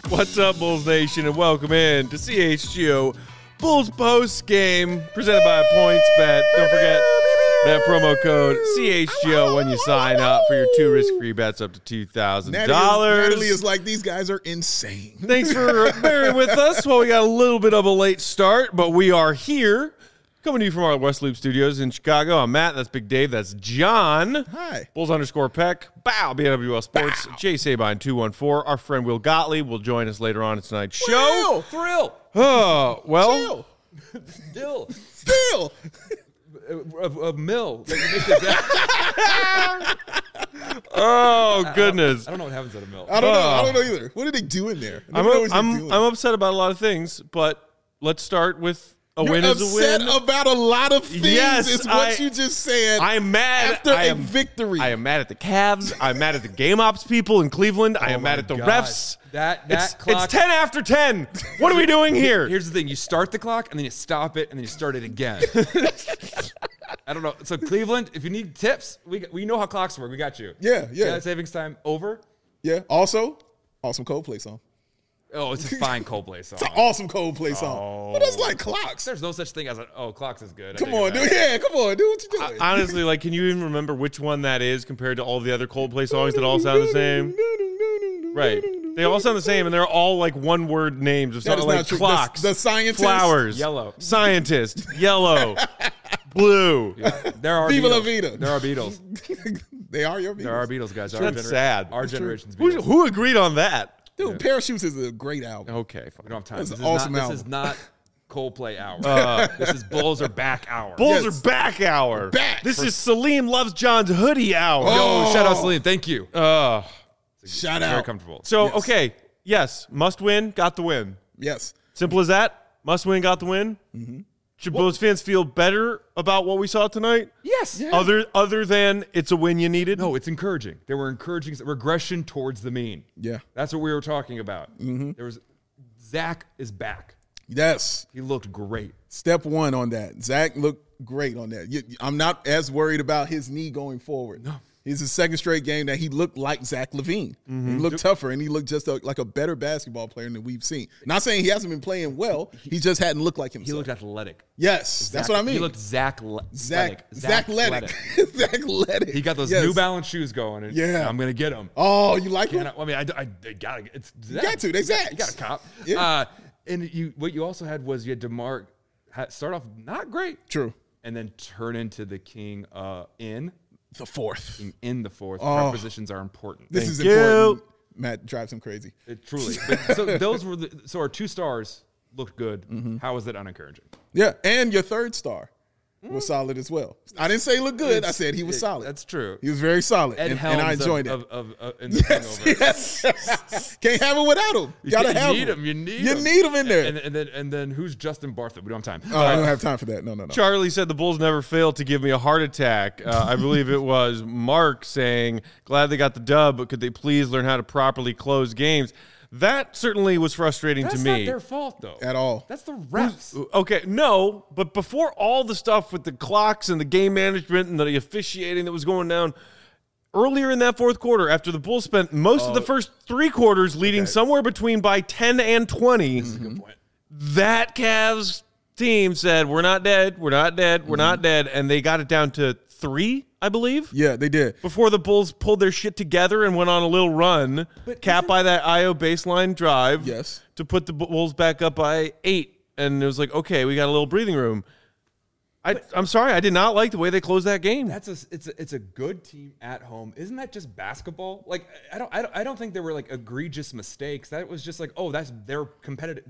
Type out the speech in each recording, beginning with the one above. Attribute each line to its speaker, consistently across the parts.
Speaker 1: What's up, Bulls Nation, and welcome in to CHGO Bulls Post Game, presented by PointsBet. Don't forget that promo code CHGO when you sign up for your 2 risk-free bets up to $2,000.
Speaker 2: Natalie is like, these guys are insane.
Speaker 1: Thanks for bearing with us. Well, we got a little bit of a late start, but we are here. Coming to you from our West Loop Studios in Chicago. I'm Matt. That's Big Dave. That's John.
Speaker 2: Hi.
Speaker 1: Bulls_Peck. Bow. BWL Sports. Bow. Jay Sabine 214. Our friend Will Gottlieb will join us later on in tonight's show.
Speaker 2: Wow. Thrill.
Speaker 1: Oh, well.
Speaker 2: Still.
Speaker 3: A mill.
Speaker 1: Oh, goodness.
Speaker 3: I don't know what happens at a mill.
Speaker 2: I don't know either. What did they do in there?
Speaker 1: I'm upset about a lot of things, but let's start with a win is a win.
Speaker 2: Upset about a lot of things.
Speaker 1: Yes,
Speaker 2: is what you just said.
Speaker 1: I'm mad.
Speaker 2: After a victory.
Speaker 1: I am mad at the Cavs. I'm mad at the game ops people in Cleveland. I am mad at the refs.
Speaker 3: That clock.
Speaker 1: It's 10 after 10. What are we doing here?
Speaker 3: Here's the thing. You start the clock, and then you stop it, and then you start it again. I don't know. So, Cleveland, if you need tips, we know how clocks work. We got you.
Speaker 2: Yeah.
Speaker 3: Daylight savings time over.
Speaker 2: Yeah. Also, awesome Coldplay song.
Speaker 3: Oh, it's a fine Coldplay song.
Speaker 2: It's an awesome Coldplay song. But that's like clocks.
Speaker 3: There's no such thing as clocks is good.
Speaker 2: Come on, dude. Yeah, come on, dude. What you doing?
Speaker 1: Honestly, like, can you even remember which one that is compared to all the other Coldplay songs that all sound the same? Right. They all sound the same, and they're all like one-word names of something like clocks,
Speaker 2: the scientist,
Speaker 1: flowers,
Speaker 3: yellow,
Speaker 1: scientist, yellow, blue.
Speaker 3: Yeah. There are
Speaker 2: Viva
Speaker 3: Beatles.
Speaker 2: La Vida.
Speaker 3: There are Beatles.
Speaker 2: They are your Beatles.
Speaker 3: There are Beatles, guys.
Speaker 1: That's sad.
Speaker 3: Our generation's Beatles.
Speaker 1: Who agreed on that?
Speaker 2: Dude, Parachutes is a great album.
Speaker 1: Okay, fine.
Speaker 3: We don't have time.
Speaker 2: That's
Speaker 3: This
Speaker 2: an
Speaker 3: is
Speaker 2: awesome
Speaker 3: not,
Speaker 2: album.
Speaker 3: This is not Coldplay hour. This is Bulls are back hour.
Speaker 1: Bulls
Speaker 2: Yes.
Speaker 1: are back hour.
Speaker 2: Back.
Speaker 1: This is Salim Loves John's hoodie hour.
Speaker 3: Yo, shout out Salim. Thank you.
Speaker 2: Shout
Speaker 3: Very
Speaker 2: out.
Speaker 3: comfortable.
Speaker 1: So,
Speaker 2: Yes.
Speaker 1: okay, yes, must win, got the win.
Speaker 2: Yes.
Speaker 1: Simple as that. Must win, got the win. Mm-hmm. Should Bulls fans feel better about what we saw tonight?
Speaker 3: Yes.
Speaker 2: Yeah.
Speaker 1: Other than it's a win you needed?
Speaker 3: No, it's encouraging. There were encouraging regression towards the mean.
Speaker 2: Yeah.
Speaker 3: That's what we were talking about.
Speaker 2: Mm-hmm.
Speaker 3: There was Zach is back.
Speaker 2: Yes.
Speaker 3: He looked great.
Speaker 2: Step one on that. Zach looked great on that. I'm not as worried about his knee going forward. No. He's the second straight game that he looked like Zach LaVine. He looked tougher, and he looked just like a better basketball player than we've seen. Not saying he hasn't been playing well. He just hadn't looked like himself.
Speaker 3: He looked athletic.
Speaker 2: Yes, that's what I mean.
Speaker 3: He looked Zach
Speaker 2: Athletic. Zach Athletic.
Speaker 3: He got those
Speaker 2: Yes.
Speaker 3: New Balance shoes going. And
Speaker 2: Yeah.
Speaker 3: I'm gonna get them.
Speaker 2: Oh, you like him?
Speaker 3: I mean, I gotta. It's Zach.
Speaker 2: got to. They Zachs.
Speaker 3: You got a cop.
Speaker 2: Yeah.
Speaker 3: And what you also had was you had DeMar start off not great.
Speaker 2: True.
Speaker 3: And then turn into the king in
Speaker 2: The fourth.
Speaker 3: the fourth.
Speaker 2: Oh.
Speaker 3: Prepositions are important.
Speaker 2: This is
Speaker 1: Thank
Speaker 2: important.
Speaker 1: you.
Speaker 2: Matt drives him crazy.
Speaker 3: Truly. But, so those were so our 2 stars looked good.
Speaker 2: Mm-hmm.
Speaker 3: How was it unencouraging?
Speaker 2: Yeah, and your third star was solid as well. I didn't say look good. I said he was solid.
Speaker 3: That's true.
Speaker 2: He was very solid,
Speaker 3: Ed
Speaker 2: and
Speaker 3: Helms
Speaker 2: I enjoyed it.
Speaker 3: in the Hangover.
Speaker 2: Yes. Can't have him without him. Gotta have
Speaker 3: need
Speaker 2: him.
Speaker 3: him. You need
Speaker 2: You
Speaker 3: him.
Speaker 2: need him in there.
Speaker 3: And then who's Justin Bartlett? We don't have time.
Speaker 2: Oh, I don't have time for that. No.
Speaker 1: Charlie said the Bulls never failed to give me a heart attack. I believe it was Mark saying, glad they got the dub, but could they please learn how to properly close games? That certainly was frustrating
Speaker 3: That's
Speaker 1: to me.
Speaker 3: not their fault, though.
Speaker 2: At all.
Speaker 3: That's the refs.
Speaker 1: Okay, no, but before all the stuff with the clocks and the game management and the officiating that was going down, earlier in that fourth quarter, after the Bulls spent most of the first 3 quarters leading somewhere between by 10 and 20,
Speaker 3: Good point.
Speaker 1: that Cavs team said, we're not dead, we're not dead, we're not dead, and they got it down to 3, I believe.
Speaker 2: Yeah, they did.
Speaker 1: Before the Bulls pulled their shit together and went on a little run, capped by that IO baseline drive
Speaker 2: Yes.
Speaker 1: to put the Bulls back up by 8. And it was like, okay, we got a little breathing room. I'm sorry, I did not like the way they closed that game.
Speaker 3: It's a good team at home. Isn't that just basketball? Like I don't think there were like egregious mistakes. That was just like, oh, they're competitive.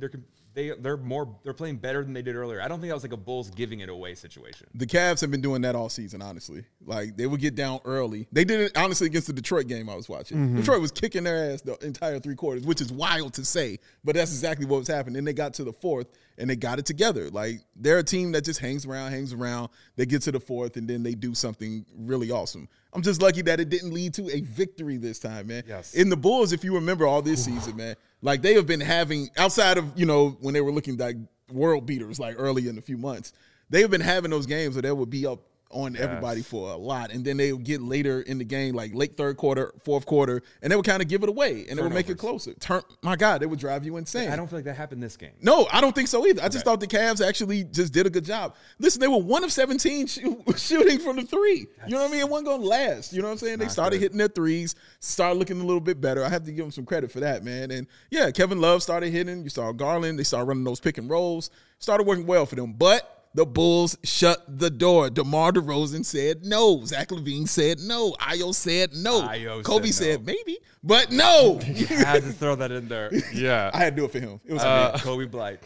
Speaker 3: They're playing better than they did earlier. I don't think that was like a Bulls giving it away situation.
Speaker 2: The Cavs have been doing that all season, honestly. Like, they would get down early. They did it, honestly, against the Detroit game I was watching. Detroit was kicking their ass the entire 3 quarters, which is wild to say, but that's exactly what was happening. Then they got to the fourth, and they got it together. Like, they're a team that just hangs around. They get to the fourth, and then they do something really awesome. I'm just lucky that it didn't lead to a victory this time, man.
Speaker 3: Yes.
Speaker 2: In the Bulls, if you remember all this season, man, like, they have been having, outside of, when they were looking like world beaters, like early in a few months, they have been having those games where they would be up on everybody for a lot. And then they would get later in the game, like late third quarter, fourth quarter, and they would kind of give it away, and they would make it closer. My God, they would drive you insane.
Speaker 3: I don't feel like that happened this game.
Speaker 2: No, I don't think so either. I just thought the Cavs actually just did a good job. Listen, they were 1 of 17 shooting from the three. You know what I mean? It wasn't going to last. You know what I'm saying? They started hitting their threes, started looking a little bit better. I have to give them some credit for that, man. And yeah, Kevin Love started hitting. You saw Garland. They started running those pick and rolls. Started working well for them. But the Bulls shut the door. DeMar DeRozan said no. Zach LaVine said no. Ayo said no. Kobe said maybe, but no.
Speaker 3: You had to throw that in there.
Speaker 1: Yeah.
Speaker 2: I had to do it for him. It was
Speaker 3: Kobe Blight.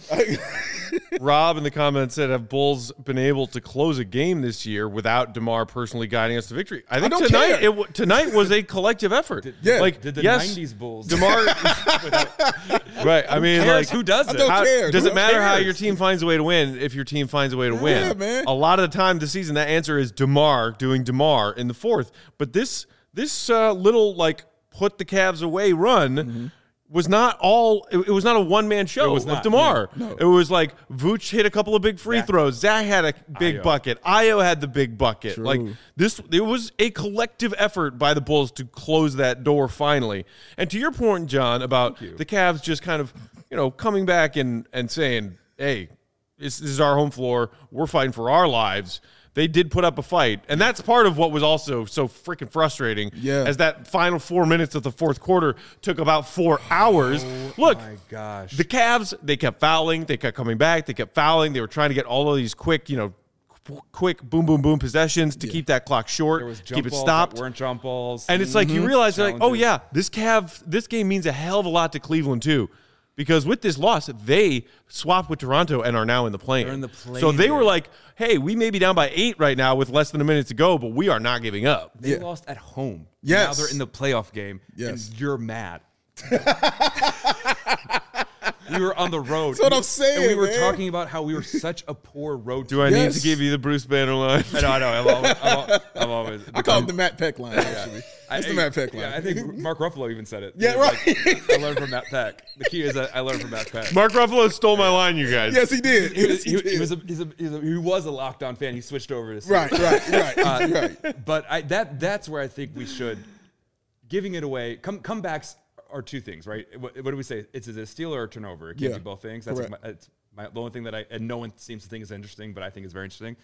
Speaker 1: Rob in the comments said, have Bulls been able to close a game this year without DeMar personally guiding us to victory? I think tonight was a collective effort.
Speaker 3: Did the 90s Bulls.
Speaker 1: DeMar. Right. I mean, like,
Speaker 3: who does it?
Speaker 1: Does it matter how your team finds a way to win if your team finds a way to win?
Speaker 2: Yeah, man.
Speaker 1: A lot of the time this season, that answer is DeMar doing DeMar in the fourth. But this little, like, put the Cavs away run was not all. It was not a one-man show of DeMar. No. It was like Vooch hit a couple of big free throws. Zach had a big bucket. Ayo had the big bucket.
Speaker 2: True.
Speaker 1: Like it was a collective effort by the Bulls to close that door finally. And to your point, John, about the Cavs just kind of, coming back and saying, hey, this is our home floor. We're fighting for our lives. They did put up a fight, and that's part of what was also so freaking frustrating.
Speaker 2: Yeah.
Speaker 1: As that final 4 minutes of the fourth quarter took about 4 hours. Look,
Speaker 3: my gosh,
Speaker 1: the Cavs, they kept fouling, they kept coming back, they kept fouling. They were trying to get all of these quick boom, boom, boom possessions to keep that clock short,
Speaker 3: there was
Speaker 1: keep it
Speaker 3: balls
Speaker 1: stopped.
Speaker 3: That weren't jump balls,
Speaker 1: and it's like you realize, like, oh yeah, this game means a hell of a lot to Cleveland too. Because with this loss, they swapped with Toronto and are now in the play-in.
Speaker 3: They're in the play-in.
Speaker 1: So they were like, hey, we may be down by 8 right now with less than a minute to go, but we are not giving up.
Speaker 3: They lost at home.
Speaker 2: Yes.
Speaker 3: Now they're in the playoff game,
Speaker 2: Yes.
Speaker 3: and you're mad. We were on the road.
Speaker 2: That's what I'm saying,
Speaker 3: and we were
Speaker 2: man.
Speaker 3: talking about how we were such a poor road team.
Speaker 1: Do I need to give you the Bruce Banner line?
Speaker 3: I know. I'm always.
Speaker 2: I call it the Matt Peck line, actually. It's the Matt Peck line.
Speaker 3: Yeah, I think Mark Ruffalo even said it.
Speaker 2: Yeah, right.
Speaker 3: Like, I learned from Matt Peck. The key is that I learned from Matt Peck.
Speaker 1: Mark Ruffalo stole my line, you guys.
Speaker 2: Yes, he did.
Speaker 3: He was a lockdown fan. He switched over to
Speaker 2: Right.
Speaker 3: But that's where I think we should, giving it away. Comebacks are two things, right? What do we say? It's a steal or a turnover. It can't be both things. That's the only thing and no one seems to think is interesting, but I think is very interesting.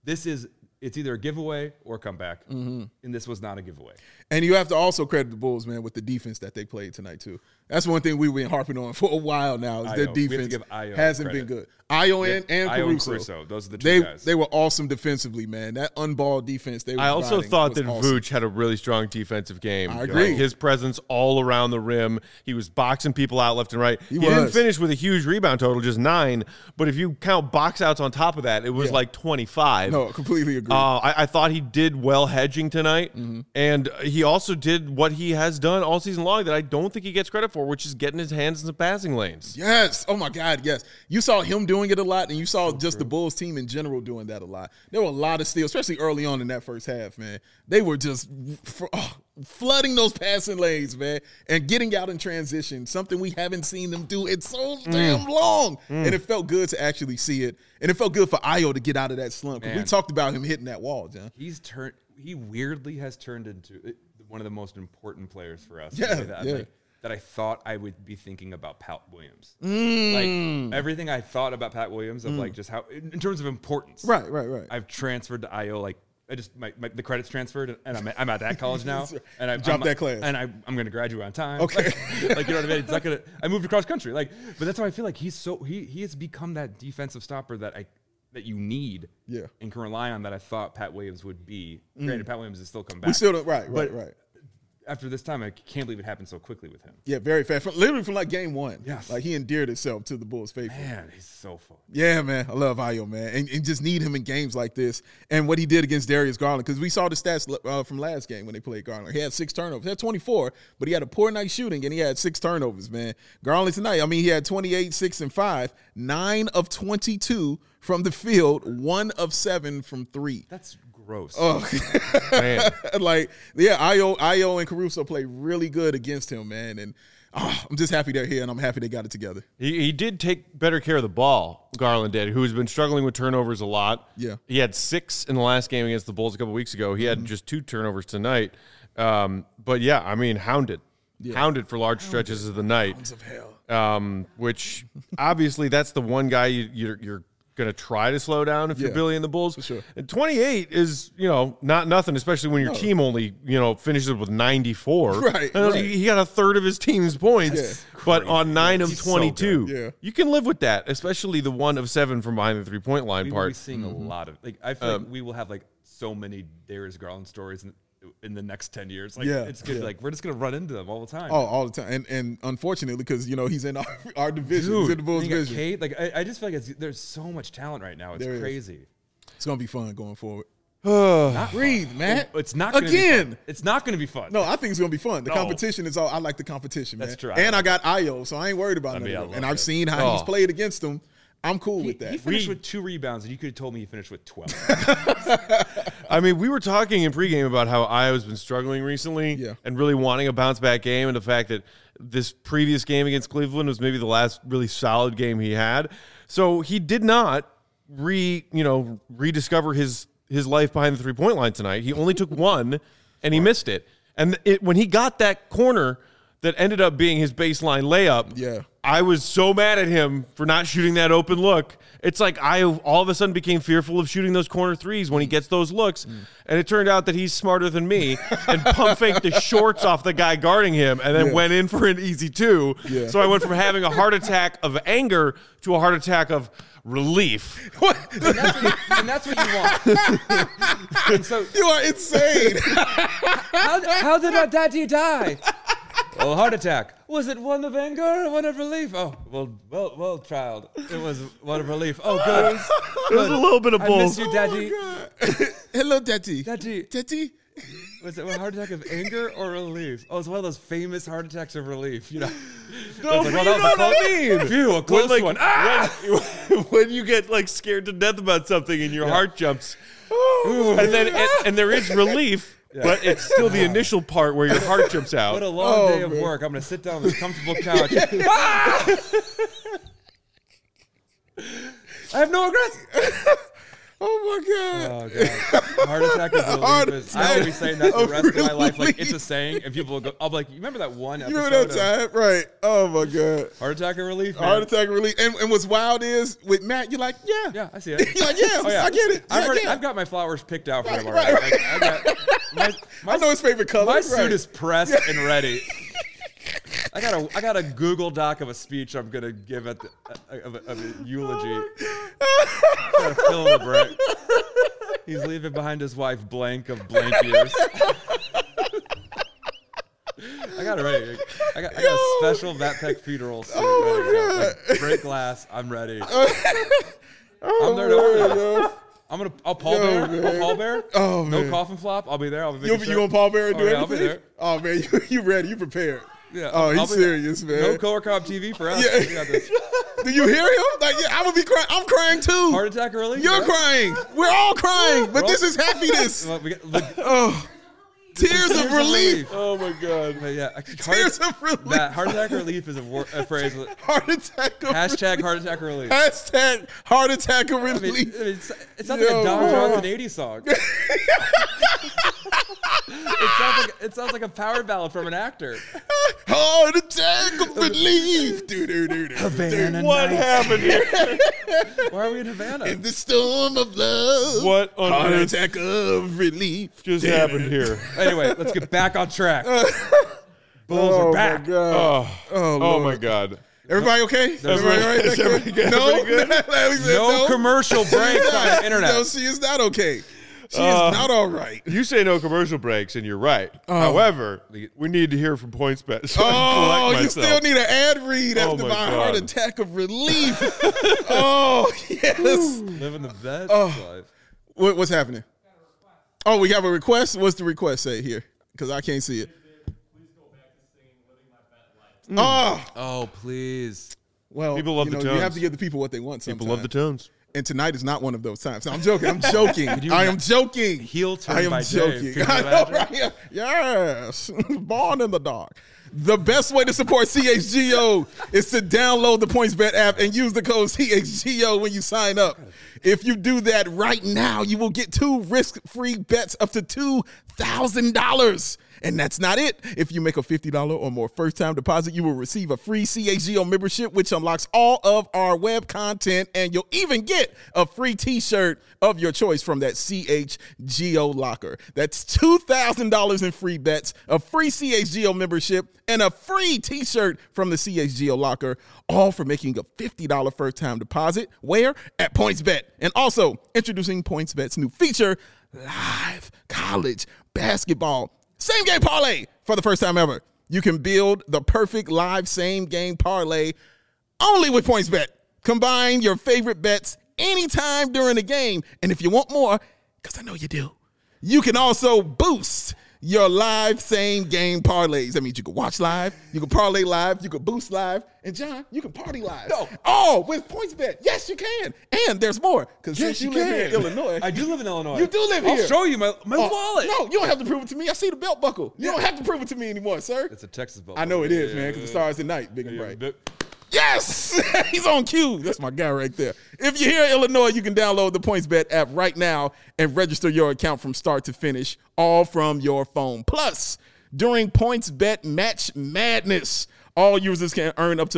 Speaker 3: It's either a giveaway or a comeback, and this was not a giveaway.
Speaker 2: And you have to also credit the Bulls, man, with the defense that they played tonight, too. That's one thing we've been harping on for a while now, is their defense hasn't been good. Ayo and Caruso.
Speaker 3: Those are the two guys.
Speaker 2: They were awesome defensively, man. That unballed defense they were
Speaker 1: I also thought that
Speaker 2: awesome.
Speaker 1: Vooch had a really strong defensive game.
Speaker 2: I agree.
Speaker 1: Like, his presence all around the rim. He was boxing people out left and right. He
Speaker 2: was.
Speaker 1: didn't finish with a huge rebound total, just 9. But if you count box outs on top of that, it was like 25.
Speaker 2: No, completely agree.
Speaker 1: I thought he did well hedging tonight. And he also did what he has done all season long that I don't think he gets credit for, which is getting his hands in the passing lanes.
Speaker 2: Yes. Oh, my God, yes. You saw him doing it a lot, and you saw the Bulls team in general doing that a lot. There were a lot of steals, especially early on in that first half, man. They were just flooding those passing lanes, man, and getting out in transition, something we haven't seen them do in so damn long. And it felt good to actually see it. And it felt good for Ayo to get out of that slump. We talked about him hitting that wall, John.
Speaker 3: He weirdly has turned into one of the most important players for us. That I thought I would be thinking about Pat Williams. Like everything I thought about Pat Williams of like just how in terms of importance.
Speaker 2: Right.
Speaker 3: I've transferred to Ayo. Like I just the credit's transferred and I'm at that college now. And I
Speaker 2: dropped that class.
Speaker 3: And I'm going to graduate on time.
Speaker 2: Okay.
Speaker 3: Like you know what I mean? It's not gonna. I moved across country. Like, but that's how I feel like he has become that defensive stopper that you need and can rely on that I thought Pat Williams would be. Granted, Pat Williams is still come back.
Speaker 2: We still don't. Right.
Speaker 3: After this time, I can't believe it happened so quickly with him.
Speaker 2: Yeah, very fast. Literally from like game 1.
Speaker 3: Yes.
Speaker 2: Like he endeared himself to the Bulls faithful.
Speaker 3: Man, he's so fun.
Speaker 2: Yeah, man. I love Ayo, man. And just need him in games like this. And what he did against Darius Garland, because we saw the stats from last game when they played Garland. He had 6 turnovers. He had 24, but he had a poor night shooting, and he had 6 turnovers, man. Garland tonight, I mean, he had 28, 6, and 5, 9 of 22 from the field, 1 of 7 from 3.
Speaker 3: That's Gross.
Speaker 2: Oh,
Speaker 1: Man.
Speaker 2: like, yeah, Io and Caruso play really good against him, man. And I'm just happy they're here, and I'm happy they got it together.
Speaker 1: He did take better care of the ball, Garland did, who's been struggling with turnovers a lot.
Speaker 2: Yeah.
Speaker 1: He had 6 in the last game against the Bulls a couple weeks ago. He had just 2 turnovers tonight. But, yeah, I mean, hounded. Yeah. Hounded for large stretches of the night.
Speaker 2: Hounds of hell.
Speaker 1: Which, obviously, that's the one guy you're going to try to slow down if you're Billy and the Bulls.
Speaker 2: For sure.
Speaker 1: And 28 is, not nothing, especially when your team only, finishes with 94.
Speaker 2: Right.
Speaker 1: He got a third of his team's points, but on 9 of 22.
Speaker 2: So
Speaker 1: you can live with that, especially the 1 of 7 from behind the three-point line
Speaker 3: We
Speaker 1: part.
Speaker 3: will be seeing a lot of I feel like we will have so many Darius Garland stories in the next 10 years. It's good. We're just gonna run into them all the time.
Speaker 2: Oh, all the time. And unfortunately, because he's in our division, he's in the Bulls division.
Speaker 3: Kate, I just feel like there's so much talent right now. It's crazy.
Speaker 2: It's gonna be fun going forward.
Speaker 3: Not
Speaker 2: Breathe,
Speaker 3: fun.
Speaker 2: Matt.
Speaker 3: It's not gonna Be fun. It's not going to be fun.
Speaker 2: No, I think it's gonna be fun. The competition is all. I like the competition, man.
Speaker 3: That's true.
Speaker 2: And I got Io, so I ain't worried about it. And I've seen how he's played against them. I'm cool with that.
Speaker 3: He finished with 2 rebounds, and you could have told me he finished with 12.
Speaker 1: I mean, we were talking in pregame about how Iowa's been struggling recently and really wanting a bounce-back game, and the fact that this previous game against Cleveland was maybe the last really solid game he had. So he did not rediscover his life behind the three-point line tonight. He only took 1, and he missed it. And when he got that corner that ended up being his baseline layup, I was so mad at him for not shooting that open look. It's like I all of a sudden became fearful of shooting those corner threes when he gets those looks. And it turned out that he's smarter than me and pump faked the shorts off the guy guarding him and then went in for an easy 2. Yeah. So I went from having a heart attack of anger to a heart attack of relief.
Speaker 3: And that's what you want. And so
Speaker 2: you are insane.
Speaker 3: How did our daddy die? Well, heart attack. Was it one of anger or one of relief? Oh, well, child. It was one of relief. Oh, good.
Speaker 1: It was a little bit of both.
Speaker 3: I miss you, daddy.
Speaker 2: Hello, daddy.
Speaker 3: Daddy. Was it a heart attack of anger or relief? Oh, it's one of those famous heart attacks of relief.
Speaker 1: No, that was a mean.
Speaker 3: Phew, a close one.
Speaker 1: When you get scared to death about something and your heart jumps, and there is relief. Yeah. But it's still the initial part where your heart jumps out.
Speaker 3: What a long day of work. I'm going to sit down on this comfortable couch. I have no regrets.
Speaker 2: Oh, my God.
Speaker 3: Heart attack of relief. I will be saying that the rest of my life. It's a saying, and people will go, I'll be like, you remember that one episode?
Speaker 2: You remember that time? Right. Oh, my God.
Speaker 3: Heart attack of relief, man.
Speaker 2: Heart attack of relief. And what's wild is, with Matt, you're like, yeah.
Speaker 3: Yeah, I see it.
Speaker 2: You're like, I get it.
Speaker 3: I've got my flowers picked out for him already.
Speaker 2: Right. I know his favorite color.
Speaker 3: My suit is pressed and ready. I got a Google Doc of a speech I'm gonna give at of a eulogy. Gotta fill in the blank. He's leaving behind his wife blank of blank years. I got it ready. I got a special Vatpec funeral suit ready to go. Break glass. I'm ready. I'm there to organize. I'll pallbear.
Speaker 2: Oh, man.
Speaker 3: No coffin flop. I'll be there. I'll be
Speaker 2: you gonna pallbear and do everything?
Speaker 3: I'll be there.
Speaker 2: Oh, man, you ready? You prepared?
Speaker 3: Yeah.
Speaker 2: Oh, he's serious, man.
Speaker 3: No Colorcom TV for us.
Speaker 2: Yeah.
Speaker 3: We got this.
Speaker 2: Do you hear him? I would be crying. I'm crying too.
Speaker 3: Heart attack early.
Speaker 2: You're crying. We're all crying, but this is happiness. Tears of relief.
Speaker 1: Oh my God.
Speaker 3: But yeah,
Speaker 2: tears of relief.
Speaker 3: That heart attack relief is a phrase.
Speaker 2: Heart attack.
Speaker 3: Hashtag heart attack relief.
Speaker 2: Hashtag heart attack relief.
Speaker 3: I mean, it sounds like a Don Johnson 80s song. It sounds like a power ballad from an actor.
Speaker 2: Heart attack of relief.
Speaker 3: Havana
Speaker 1: what
Speaker 3: nights.
Speaker 1: happened here?
Speaker 3: Why are we in Havana?
Speaker 2: In the storm of love.
Speaker 1: What on
Speaker 2: heart
Speaker 1: earth
Speaker 2: attack of relief
Speaker 1: just happened here?
Speaker 3: Anyway, let's get back on track. Bulls are back.
Speaker 2: My God.
Speaker 1: Oh my God.
Speaker 2: Everybody okay? Everybody all right?
Speaker 1: Is everybody good?
Speaker 3: No commercial breaks on the internet.
Speaker 2: No, she is not okay. She is not all right.
Speaker 1: You say no commercial breaks, and you're right. However, we need to hear from PointsBet. So
Speaker 2: you still need an ad read after my heart attack of relief. Oh, yes.
Speaker 3: Living the best life.
Speaker 2: What's happening? Oh, we have a request? What's the request say here? Because I can't see it.
Speaker 4: Please go back to singing Living My Bet Life.
Speaker 3: Oh, please.
Speaker 2: Well,
Speaker 1: people love the tones.
Speaker 2: You have to give the people what they want sometimes.
Speaker 1: People love the tones.
Speaker 2: And tonight is not one of those times. No, I'm joking. I'm joking. I am joking.
Speaker 3: Heel turn
Speaker 2: I am
Speaker 3: by
Speaker 2: joking.
Speaker 3: Dave. Could you
Speaker 2: I know,
Speaker 3: imagine?
Speaker 2: right? Yeah. Yes. Born in the dark. The best way to support CHGO is to download the PointsBet app and use the code CHGO when you sign up. If you do that right now, you will get 2 risk-free bets up to $2,000. And that's not it. If you make a $50 or more first-time deposit, you will receive a free CHGO membership, which unlocks all of our web content, and you'll even get a free T-shirt of your choice from that CHGO locker. That's $2,000 in free bets, a free CHGO membership, and a free T-shirt from the CHGO locker, all for making a $50 first-time deposit. Where? At PointsBet. And also, introducing PointsBet's new feature, Live College Basketball Same Game Parlay. For the first time ever, you can build the perfect live same game parlay only with PointsBet. Combine your favorite bets anytime during the game. And if you want more, because I know you do, you can also boost your live same game parlays. That means you can watch live, you can parlay live, you can boost live, and John, you can party live.
Speaker 3: No.
Speaker 2: Oh, with PointsBet. Yes, you can. And there's more. Because
Speaker 3: Yes,
Speaker 2: since you
Speaker 3: you
Speaker 2: live here in
Speaker 3: can.
Speaker 2: Illinois.
Speaker 3: I do live in Illinois.
Speaker 2: You do live
Speaker 3: I'll
Speaker 2: here.
Speaker 3: show you my
Speaker 2: Oh,
Speaker 3: wallet.
Speaker 2: No, you don't have to prove it to me. I see the belt buckle. You don't have to prove it to me anymore, sir.
Speaker 3: It's a Texas belt.
Speaker 2: I know it is, man, because the stars at night, big and bright. Yes! He's on cue. That's my guy right there. If you're here in Illinois, you can download the PointsBet app right now and register your account from start to finish, all from your phone. Plus, during PointsBet Match Madness, all users can earn up to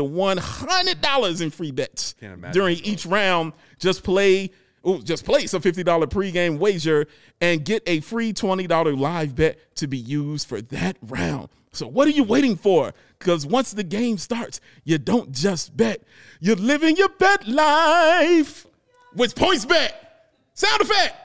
Speaker 2: $100 in free bets.
Speaker 3: Can't imagine
Speaker 2: During
Speaker 3: that.
Speaker 2: each round, just place a $50 pregame wager and get a free $20 live bet to be used for that round. So what are you waiting for? Because once the game starts, you don't just bet. You're living your bet life with PointsBet. Sound effect.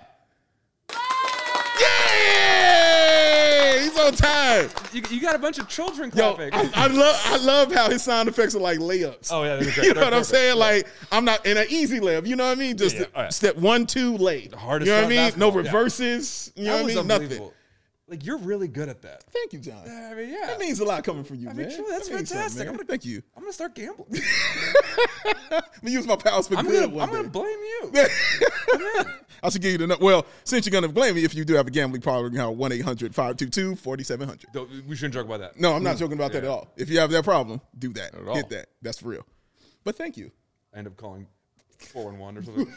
Speaker 2: Yeah! He's on time.
Speaker 3: You got a bunch of children
Speaker 2: Yo,
Speaker 3: clapping.
Speaker 2: I love how his sound effects are like layups.
Speaker 3: Oh, yeah, they're great.
Speaker 2: You know
Speaker 3: They're
Speaker 2: what I'm
Speaker 3: perfect.
Speaker 2: saying? Like, I'm not in an easy layup. You know what I mean? Just
Speaker 3: Yeah, yeah. Oh, yeah.
Speaker 2: step 1, 2, lay.
Speaker 3: hardest
Speaker 2: You know what I
Speaker 3: shot
Speaker 2: mean? No
Speaker 3: basketball, yeah.
Speaker 2: reverses. You know
Speaker 3: That
Speaker 2: what I
Speaker 3: was
Speaker 2: mean? Nothing.
Speaker 3: unbelievable. Like, you're really good at that.
Speaker 2: Thank you, John.
Speaker 3: I mean, yeah.
Speaker 2: That means a lot coming from you,
Speaker 3: I mean,
Speaker 2: man.
Speaker 3: true, that's
Speaker 2: That means something,
Speaker 3: fantastic.
Speaker 2: man.
Speaker 3: I'm gonna-
Speaker 2: Thank you.
Speaker 3: I'm going to start gambling.
Speaker 2: I'm gonna use my powers for
Speaker 3: I'm
Speaker 2: good
Speaker 3: going
Speaker 2: one
Speaker 3: to
Speaker 2: day.
Speaker 3: blame you.
Speaker 2: I should give you the well. Since you're gonna blame me, if you do have a gambling problem, you know 1-800-522-4700.
Speaker 3: We shouldn't joke about that.
Speaker 2: No, I'm not joking about that at all. If you have that problem, do that.
Speaker 3: Not at all.
Speaker 2: Hit that. That's for real. But thank you.
Speaker 3: I end up calling 411 or something.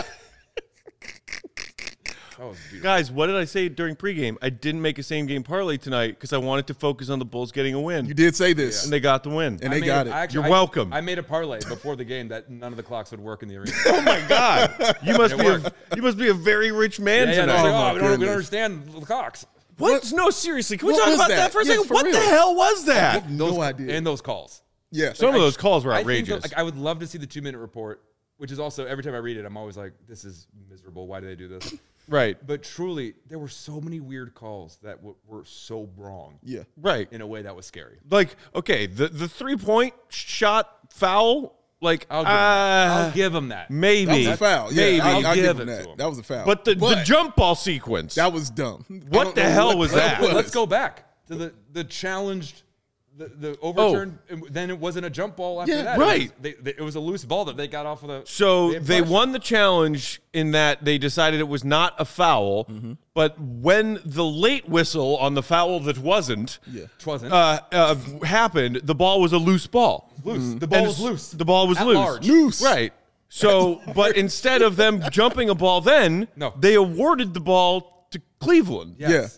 Speaker 3: That was beautiful.
Speaker 1: Guys, what did I say during pregame? I didn't make a same game parlay tonight because I wanted to focus on the Bulls getting a win.
Speaker 2: You did say this.
Speaker 1: And they got the win.
Speaker 2: And they got it.
Speaker 1: You're welcome.
Speaker 3: I made a parlay before the game that none of the clocks would work in the arena.
Speaker 1: Oh my God! You must
Speaker 3: It
Speaker 1: you must be a very rich man
Speaker 3: Yeah,
Speaker 1: tonight.
Speaker 3: no,
Speaker 2: Oh, my
Speaker 3: we don't
Speaker 2: goodness.
Speaker 3: understand the clocks.
Speaker 1: What? No, seriously. Can we
Speaker 2: What
Speaker 1: talk
Speaker 2: was
Speaker 1: about
Speaker 2: that?
Speaker 1: that for a
Speaker 2: Yes,
Speaker 1: second?
Speaker 2: for
Speaker 1: What the
Speaker 2: real.
Speaker 1: hell was that?
Speaker 2: No idea.
Speaker 3: And those calls.
Speaker 2: Yeah.
Speaker 1: Some of those calls were
Speaker 3: I think
Speaker 1: outrageous.
Speaker 3: that, like, I would love to see the 2-minute report, which is also every time I read it, I'm always like, this is miserable. Why do they do this?
Speaker 1: Right.
Speaker 3: But truly, there were so many weird calls that were so wrong.
Speaker 2: Yeah.
Speaker 1: Right.
Speaker 3: In a way that was scary.
Speaker 1: Like, okay, the 3-point shot foul, like,
Speaker 3: I'll give him that.
Speaker 1: maybe.
Speaker 2: That was a foul. Yeah,
Speaker 1: Maybe.
Speaker 2: I'll
Speaker 3: give
Speaker 2: give
Speaker 3: it
Speaker 2: him
Speaker 3: to
Speaker 2: that.
Speaker 3: him.
Speaker 2: That was a foul.
Speaker 1: But the jump ball sequence.
Speaker 2: that was dumb. I
Speaker 1: What
Speaker 2: don't
Speaker 1: the
Speaker 2: know
Speaker 1: hell
Speaker 2: what
Speaker 1: was
Speaker 2: the
Speaker 1: that?
Speaker 2: hell
Speaker 3: Let's go back to the challenged, the overturned. Then it wasn't a jump ball after
Speaker 2: Yeah,
Speaker 3: that.
Speaker 1: right.
Speaker 3: It was a loose ball that they got off of the.
Speaker 1: So
Speaker 3: had
Speaker 1: they
Speaker 3: pressure.
Speaker 1: won the challenge in that they decided it was not a foul, but when the late whistle on the foul that wasn't
Speaker 3: It wasn't
Speaker 1: happened, the ball was a loose ball.
Speaker 3: loose. The ball
Speaker 1: And
Speaker 3: was loose.
Speaker 1: The ball was
Speaker 3: At
Speaker 1: loose.
Speaker 3: large.
Speaker 2: Loose.
Speaker 1: Right. So, but instead of them jumping a ball then,
Speaker 3: No.
Speaker 1: they awarded the ball to Cleveland.
Speaker 3: Yes.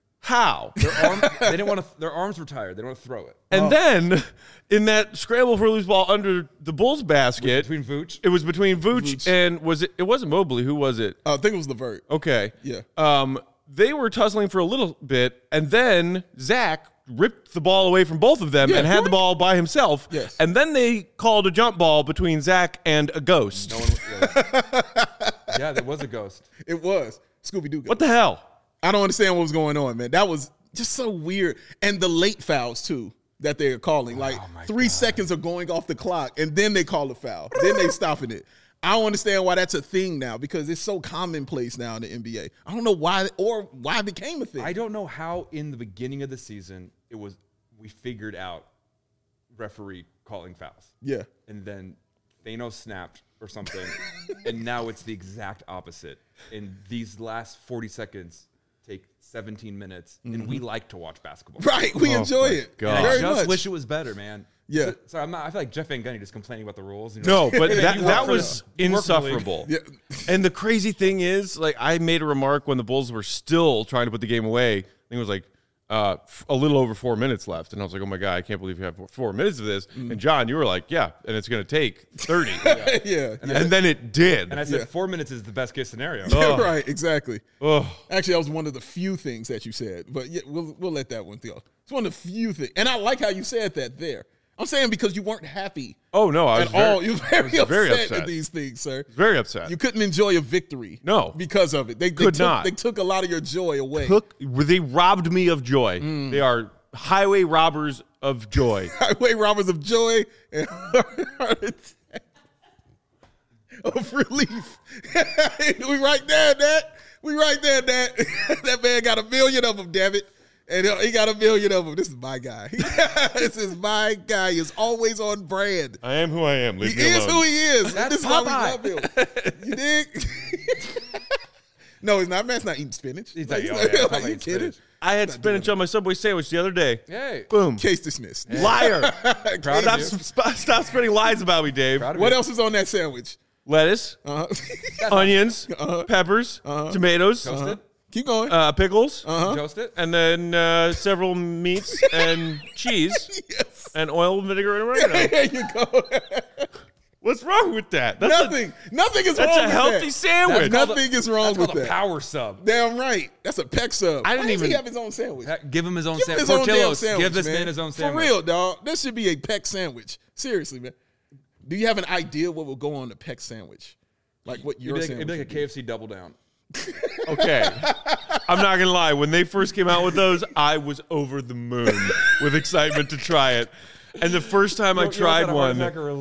Speaker 1: How?
Speaker 3: They didn't want to. Their arms were tired. They didn't want to throw it.
Speaker 1: And then in that scramble for a loose ball under the Bulls basket,
Speaker 3: Between Vooch.
Speaker 1: it was between Vooch and it wasn't Mobley. Who was it?
Speaker 2: I think it was LeVert.
Speaker 1: Okay.
Speaker 2: Yeah.
Speaker 1: They were tussling for a little bit, and then Zach ripped the ball away from both of them
Speaker 2: Yeah.
Speaker 1: and had the ball by himself.
Speaker 2: Yes.
Speaker 1: And then they called a jump ball between Zach and a ghost.
Speaker 3: No one. Yeah, there was a ghost.
Speaker 2: It was. Scooby-Doo.
Speaker 1: What the hell?
Speaker 2: I don't understand what was going on, man. That was just so weird. And the late fouls, too, that they're calling. Like, 3 seconds are going off the clock, and then they call a foul. Then they stopping it. I don't understand why that's a thing now, because it's so commonplace now in the NBA. I don't know why it became a thing.
Speaker 3: I don't know how in the beginning of the season we figured out referee calling fouls.
Speaker 2: Yeah.
Speaker 3: And then Thanos snapped or something, and now it's the exact opposite. And these last 40 seconds take 17 minutes, and we like to watch basketball.
Speaker 2: Right, we enjoy it
Speaker 1: God.
Speaker 3: And I
Speaker 2: very
Speaker 3: just
Speaker 2: much.
Speaker 3: wish it was better, man.
Speaker 2: Yeah.
Speaker 3: So I'm not. I feel like Jeff Van Gundy just complaining about the rules. You
Speaker 1: No,
Speaker 3: know?
Speaker 1: but that
Speaker 3: You work for
Speaker 1: was
Speaker 3: the- you work for the league.
Speaker 1: insufferable.
Speaker 2: Yeah.
Speaker 1: And the crazy thing is, like, I made a remark when the Bulls were still trying to put the game away. I think it was like a little over 4 minutes left. And I was like, oh my God, I can't believe you have 4 minutes of this. And John, you were like, yeah, and it's going to take 30.
Speaker 2: yeah.
Speaker 1: And then it did.
Speaker 3: And I said
Speaker 2: Yeah.
Speaker 3: 4 minutes is the best case scenario.
Speaker 2: Right, exactly.
Speaker 1: Ugh.
Speaker 2: Actually, that was one of the few things that you said, but yeah, we'll let that one go. It's one of the few things, and I like how you said that there. I'm saying because you weren't happy
Speaker 1: Oh, no, I was
Speaker 2: at all. You were
Speaker 1: I was
Speaker 2: very upset at these things, sir.
Speaker 1: very upset.
Speaker 2: You couldn't enjoy a victory.
Speaker 1: No.
Speaker 2: because of it. They
Speaker 1: Could
Speaker 2: took,
Speaker 1: not.
Speaker 2: They took a lot of your joy away.
Speaker 1: They robbed me of joy. They are highway robbers of joy.
Speaker 2: Highway robbers of joy and heart attack of relief. We right there, Dad. We right there, Dad. That man got 1 million of them, damn it. And he got 1 million of them. This is my guy. This is my guy. He's always on brand.
Speaker 1: I am who I am. Leave
Speaker 2: He
Speaker 1: me
Speaker 2: is
Speaker 1: alone.
Speaker 2: who he is.
Speaker 3: That's
Speaker 2: This is why we
Speaker 3: Popeye.
Speaker 2: love him. You dig? No, he's not. Man's not eating spinach.
Speaker 3: He's
Speaker 2: Like,
Speaker 3: like, oh, yeah,
Speaker 2: like, you
Speaker 3: eating
Speaker 2: kidding?
Speaker 3: spinach.
Speaker 1: I had spinach on my Subway sandwich the other day.
Speaker 3: Hey.
Speaker 1: Boom.
Speaker 2: Case dismissed.
Speaker 1: Liar.
Speaker 3: Proud of
Speaker 1: Stop spreading lies about me, Dave.
Speaker 3: Proud of
Speaker 2: What
Speaker 3: you.
Speaker 2: else is on that sandwich?
Speaker 1: Lettuce, onions, peppers, tomatoes,
Speaker 3: Toast
Speaker 2: Keep going.
Speaker 1: pickles,
Speaker 3: it. Toast it.
Speaker 1: and then several meats and cheese
Speaker 2: Yes.
Speaker 1: and oil, vinegar, and oregano.
Speaker 2: There you go.
Speaker 1: What's wrong with that? That's
Speaker 2: Nothing is
Speaker 1: That's
Speaker 2: wrong
Speaker 1: a
Speaker 2: with
Speaker 1: healthy
Speaker 2: that.
Speaker 1: sandwich.
Speaker 2: Nothing is wrong
Speaker 3: That's
Speaker 2: with
Speaker 3: called a
Speaker 2: that.
Speaker 3: power sub.
Speaker 2: Damn right. That's a peck sub.
Speaker 1: I didn't
Speaker 2: Why does he
Speaker 1: even-
Speaker 2: have his own sandwich?
Speaker 3: Give him his own
Speaker 2: Give him
Speaker 3: sandwich.
Speaker 2: his own damn
Speaker 3: Portillo's.
Speaker 2: sandwich,
Speaker 3: Give this man his own sandwich.
Speaker 2: For real, dog. That should be a peck sandwich. Seriously, man. Do you have an idea what will go on the peck sandwich? Like what your
Speaker 3: It'd
Speaker 2: sandwich
Speaker 3: be like a
Speaker 2: would
Speaker 3: KFC double down.
Speaker 1: Okay. I'm not going to lie. When they first came out with those, I was over the moon with excitement to try it. And the first time I tried one,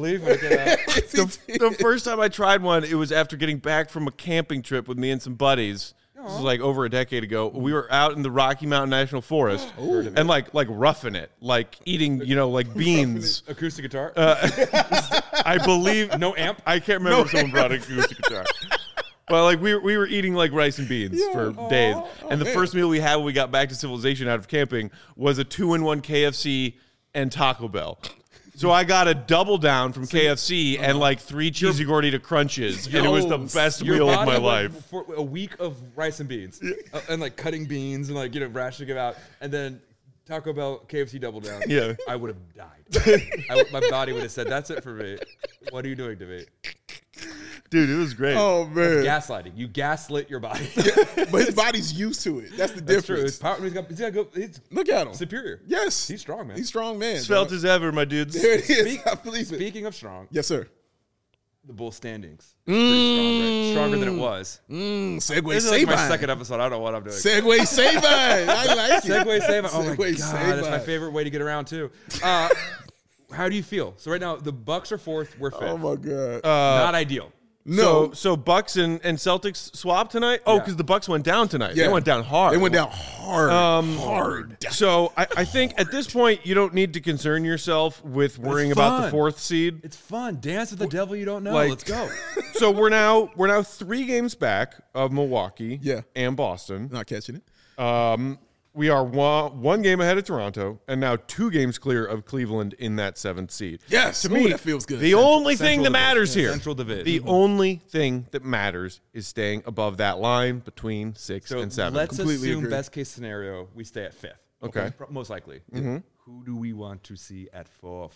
Speaker 1: the first time I tried one, it was after getting back from a camping trip with me and some buddies. This was like over a decade ago. We were out in the Rocky Mountain National Forest and like roughing it, like eating, like beans.
Speaker 3: Acoustic guitar.
Speaker 1: I believe
Speaker 3: no amp.
Speaker 1: I can't remember if someone brought an acoustic guitar. But like we were eating like rice and beans for days. And the
Speaker 2: man.
Speaker 1: first meal we had when we got back to civilization out of camping was a 2-in-1 KFC and Taco Bell. So I got a double down from KFC and like 3 cheesy gordita crunches, and it was the best
Speaker 3: Your
Speaker 1: meal of
Speaker 3: body
Speaker 1: my
Speaker 3: went
Speaker 1: life.
Speaker 3: for a week of rice and beans, and like cutting beans and like rationing them out, and then Taco Bell, KFC double down.
Speaker 1: Yeah.
Speaker 3: I would have died. My body would have said, "That's it for me. What are you doing to me?"
Speaker 1: Dude, it was great.
Speaker 2: Oh man.
Speaker 3: Gaslighting. You gaslit your body.
Speaker 2: But his body's used to it. That's the
Speaker 3: That's true.
Speaker 2: difference.
Speaker 3: It's power, he's
Speaker 2: Look at him.
Speaker 3: superior.
Speaker 2: Yes.
Speaker 3: He's strong, man.
Speaker 2: He's strong, man.
Speaker 1: Svelte
Speaker 2: dog.
Speaker 1: as ever, my dudes.
Speaker 2: There it is. I believe it.
Speaker 3: Speaking of strong,
Speaker 2: Yes, sir.
Speaker 3: the Bulls standings. Pretty strong, right? Stronger than it was.
Speaker 2: Segway
Speaker 3: This is like my
Speaker 2: Sabine.
Speaker 3: second episode. I don't know what I'm doing.
Speaker 2: Segway Sabine. I like it.
Speaker 3: Segway Sabine. Oh my
Speaker 2: Segway
Speaker 3: god, that's my
Speaker 2: Sabine.
Speaker 3: favorite way to get around too. How do you feel? So right now the Bucks are 4th. We're 5th.
Speaker 2: Oh my god.
Speaker 3: Not ideal.
Speaker 2: No.
Speaker 1: So Bucks and Celtics swapped tonight? Oh,
Speaker 3: Yeah.
Speaker 1: because the Bucks went down tonight.
Speaker 2: Yeah.
Speaker 1: They went down hard.
Speaker 2: They went down hard. Hard.
Speaker 1: So I think at this point you don't need to concern yourself with worrying about the
Speaker 3: fun.
Speaker 1: 4th seed.
Speaker 3: It's fun. Dance with the devil you don't know.
Speaker 1: Like-
Speaker 3: Let's go.
Speaker 1: So we're now 3 games back of Milwaukee
Speaker 2: Yeah.
Speaker 1: and Boston.
Speaker 2: Not catching it.
Speaker 1: We are one game ahead of Toronto and now 2 games clear of Cleveland in that 7th seed.
Speaker 2: Yes.
Speaker 1: To
Speaker 2: Ooh,
Speaker 1: me,
Speaker 2: that feels good.
Speaker 1: The only thing
Speaker 3: Central
Speaker 1: that
Speaker 3: Division.
Speaker 1: matters here,
Speaker 3: Central Division.
Speaker 1: the only thing that matters is staying above that line between 6
Speaker 3: So
Speaker 1: and 7.
Speaker 3: let's
Speaker 2: Completely
Speaker 3: assume
Speaker 2: agree.
Speaker 3: best case scenario we stay at 5th.
Speaker 1: Okay.
Speaker 3: Most likely. Who do we want to see at 4th?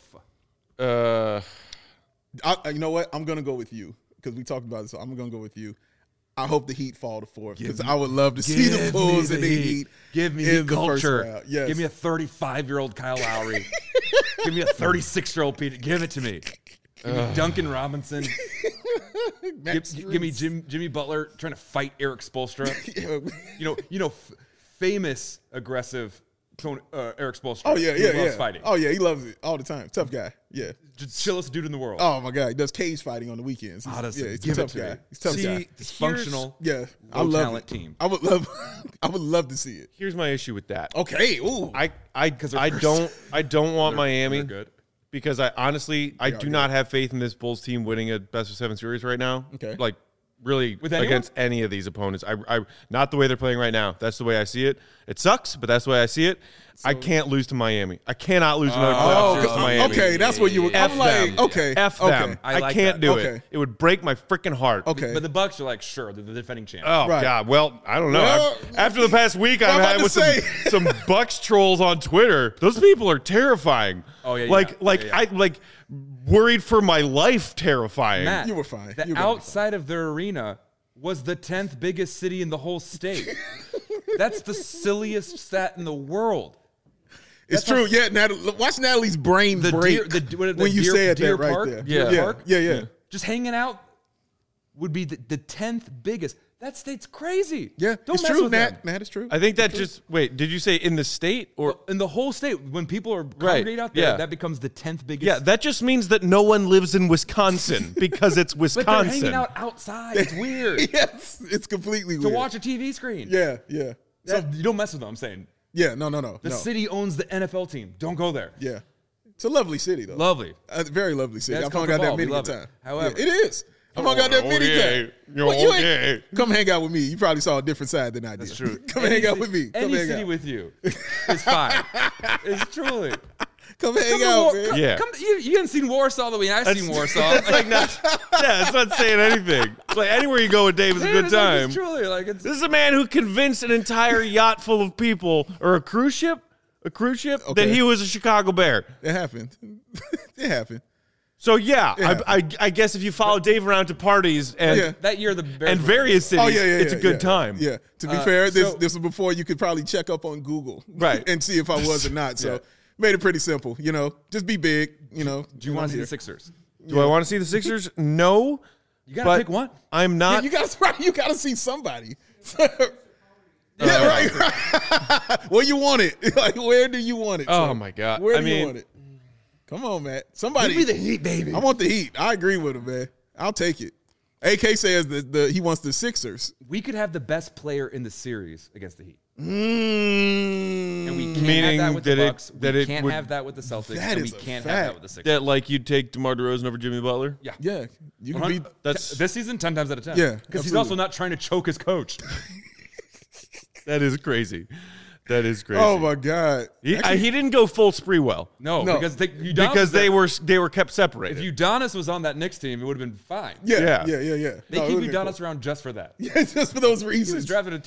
Speaker 2: You know what? I'm gonna go with you because we talked about it. So I'm gonna go with you. I hope the Heat fall to 4th because I would love to see the Bulls and the Heat.
Speaker 3: Give me
Speaker 2: in
Speaker 3: the
Speaker 2: first
Speaker 3: culture.
Speaker 2: round. Yes.
Speaker 3: Give me a 35-year-old Kyle Lowry. Give me a 36-year-old Peter. Give it to me. Give me Duncan Robinson. Give me Jimmy Butler trying to fight Eric Spoelstra. Famous aggressive Eric Spoelstra.
Speaker 2: Oh yeah,
Speaker 3: who
Speaker 2: yeah,
Speaker 3: loves
Speaker 2: yeah.
Speaker 3: fighting.
Speaker 2: Oh yeah, he loves it all the time. Tough guy. Yeah.
Speaker 3: Just chillest dude in the world.
Speaker 2: Oh my god, he does cage fighting on the weekends. He's,
Speaker 3: Honestly,
Speaker 2: he's
Speaker 3: give
Speaker 2: a
Speaker 3: it
Speaker 2: tough
Speaker 3: to
Speaker 2: guy.
Speaker 3: me.
Speaker 2: He's a tough guy.
Speaker 3: Dysfunctional.
Speaker 2: Yeah, I
Speaker 3: low
Speaker 2: love
Speaker 3: talent
Speaker 2: it.
Speaker 3: team.
Speaker 2: I would love to see it.
Speaker 1: Here's my issue with that.
Speaker 2: Okay. Ooh.
Speaker 1: I
Speaker 3: they're first.
Speaker 1: don't want Miami
Speaker 3: They're good.
Speaker 1: because I honestly I do not have faith in this Bulls team winning a best of 7 series right now.
Speaker 2: Okay.
Speaker 1: Like really
Speaker 3: With anyone?
Speaker 1: against any of these opponents. I not the way they're playing right now. That's the way I see it. It sucks, but that's the way I see it. I can't lose to Miami. I cannot lose another playoff series to Miami.
Speaker 2: Okay, that's what you were.
Speaker 1: F
Speaker 2: I'm like,
Speaker 1: them.
Speaker 2: okay,
Speaker 1: F
Speaker 2: okay.
Speaker 1: them.
Speaker 3: I
Speaker 1: I
Speaker 3: like
Speaker 1: can't
Speaker 3: that.
Speaker 1: do
Speaker 2: Okay.
Speaker 1: it. It would break my freaking heart.
Speaker 2: Okay.
Speaker 3: But the Bucks are like, sure, they're the defending champs.
Speaker 1: Oh
Speaker 2: Right.
Speaker 1: God! Well, I don't know.
Speaker 2: Well,
Speaker 1: After the past week I've
Speaker 2: I'm about
Speaker 1: had
Speaker 2: to
Speaker 1: with
Speaker 2: say.
Speaker 1: some Bucks trolls on Twitter, those people are terrifying.
Speaker 3: Oh, yeah,
Speaker 1: like
Speaker 3: yeah.
Speaker 1: I like worried for my life. Terrifying.
Speaker 3: Matt,
Speaker 2: You were fine.
Speaker 3: The
Speaker 2: You were
Speaker 3: outside of their arena was the 10th biggest city in the whole state. That's the silliest stat in the world.
Speaker 2: It's true. Yeah, watch Natalie's brain break when you said
Speaker 3: Deer
Speaker 2: that right
Speaker 3: Park,
Speaker 2: there.
Speaker 3: Deer
Speaker 1: Yeah.
Speaker 3: Park,
Speaker 2: Yeah.
Speaker 3: just hanging out would be the 10th biggest. That state's crazy.
Speaker 2: Yeah,
Speaker 3: Don't
Speaker 2: it's
Speaker 3: mess
Speaker 2: true,
Speaker 3: with
Speaker 2: Nat.
Speaker 3: them.
Speaker 2: Nat, it's true.
Speaker 1: I think that just wait. Did you say in the state or?
Speaker 3: In the whole state, when people are congregate out there,
Speaker 1: yeah.
Speaker 3: that becomes the 10th biggest.
Speaker 1: Yeah, that just means that no one lives in Wisconsin because it's
Speaker 3: but
Speaker 1: Wisconsin.
Speaker 3: they're hanging out outside. It's weird
Speaker 2: Yes, it's completely
Speaker 3: to
Speaker 2: weird.
Speaker 3: watch a TV screen.
Speaker 2: Yeah.
Speaker 3: So you don't mess with them. I'm saying
Speaker 2: Yeah, no.
Speaker 3: the city owns the NFL team. Don't go there.
Speaker 2: Yeah. It's a lovely city, though.
Speaker 3: Lovely.
Speaker 2: A very lovely city.
Speaker 3: That's
Speaker 2: I've hung out there
Speaker 3: Coca-Cola. We
Speaker 2: many
Speaker 3: love
Speaker 2: times.
Speaker 3: it. However-
Speaker 2: Yeah, it is. I've hung out there many times.
Speaker 1: You're
Speaker 2: Well, you ain't-
Speaker 1: okay.
Speaker 2: Come hang out with me. You probably saw a different side than I did.
Speaker 3: That's true.
Speaker 2: Come hang out with me. Come
Speaker 3: Any
Speaker 2: hang
Speaker 3: city
Speaker 2: out.
Speaker 3: with you is fine. It's truly.
Speaker 2: Come hang
Speaker 3: Come to
Speaker 2: out,
Speaker 3: War-
Speaker 2: man.
Speaker 3: come-
Speaker 1: Yeah.
Speaker 3: come- you haven't seen Warsaw the way I've seen Warsaw.
Speaker 1: It's like not. Yeah, it's not saying anything. It's like anywhere you go with Dave is a good time.
Speaker 3: It's truly like it's.
Speaker 1: This is a man who convinced an entire yacht full of people, or a cruise ship, that
Speaker 2: Okay.
Speaker 1: he was a Chicago Bear.
Speaker 2: It happened. It happened.
Speaker 1: So yeah,
Speaker 2: Yeah.
Speaker 1: I guess if you follow Dave around to parties and
Speaker 2: Yeah.
Speaker 3: That year, the Bears
Speaker 1: and
Speaker 3: were-
Speaker 1: various cities,
Speaker 2: Oh, yeah.
Speaker 1: it's a good
Speaker 2: yeah.
Speaker 1: time.
Speaker 2: Yeah. To be fair,
Speaker 3: so-
Speaker 2: this was before you could probably check up on Google.
Speaker 1: Right.
Speaker 2: And see if I was or not. So
Speaker 1: Yeah.
Speaker 2: made it pretty simple. Just be big,
Speaker 3: Do you want to see the Sixers?
Speaker 1: Do I want to see the Sixers? No.
Speaker 3: You gotta
Speaker 1: but
Speaker 3: pick one.
Speaker 1: I'm
Speaker 2: Yeah,
Speaker 1: not.
Speaker 2: you gotta see somebody. Yeah, right. Where you want it? Like, where do you want it?
Speaker 1: Oh
Speaker 2: son?
Speaker 1: my God.
Speaker 2: Where
Speaker 1: I
Speaker 2: do you
Speaker 1: mean-
Speaker 2: want it? Come on, Matt. Somebody.
Speaker 3: Give me the heat, baby.
Speaker 2: I want the Heat. I agree with him, man. I'll take it. AK says that he wants the Sixers.
Speaker 3: We could have the best player in the series against the Heat,
Speaker 2: Mm,
Speaker 3: and we can't
Speaker 1: Meaning
Speaker 3: have that with
Speaker 1: that
Speaker 3: the
Speaker 1: it-
Speaker 3: Bucks.
Speaker 1: that
Speaker 3: We
Speaker 1: it
Speaker 3: can't
Speaker 1: would-
Speaker 3: have that with the Celtics,
Speaker 2: That
Speaker 3: and we
Speaker 2: is a
Speaker 3: can't
Speaker 2: fact.
Speaker 3: have that with the Sixers.
Speaker 1: that like you'd take DeMar DeRozan over Jimmy Butler.
Speaker 3: Yeah.
Speaker 2: yeah, you can be.
Speaker 1: That's
Speaker 3: This season, 10 times out of 10.
Speaker 2: Yeah,
Speaker 3: because he's
Speaker 2: absolutely.
Speaker 3: also not trying to choke his coach.
Speaker 1: that is crazy. That is crazy.
Speaker 2: Oh my God.
Speaker 1: He didn't go full Spreewell
Speaker 3: No,
Speaker 2: No.
Speaker 3: because
Speaker 1: because they were kept separated.
Speaker 3: If Udonis was on that Knicks team, it would have been fine.
Speaker 2: Yeah.
Speaker 1: Yeah.
Speaker 2: Yeah.
Speaker 3: They
Speaker 2: No, it
Speaker 3: keep
Speaker 2: would've been
Speaker 3: Udonis around just for that.
Speaker 2: cool. Yeah, just for those
Speaker 3: He was
Speaker 2: reasons.
Speaker 3: drafted in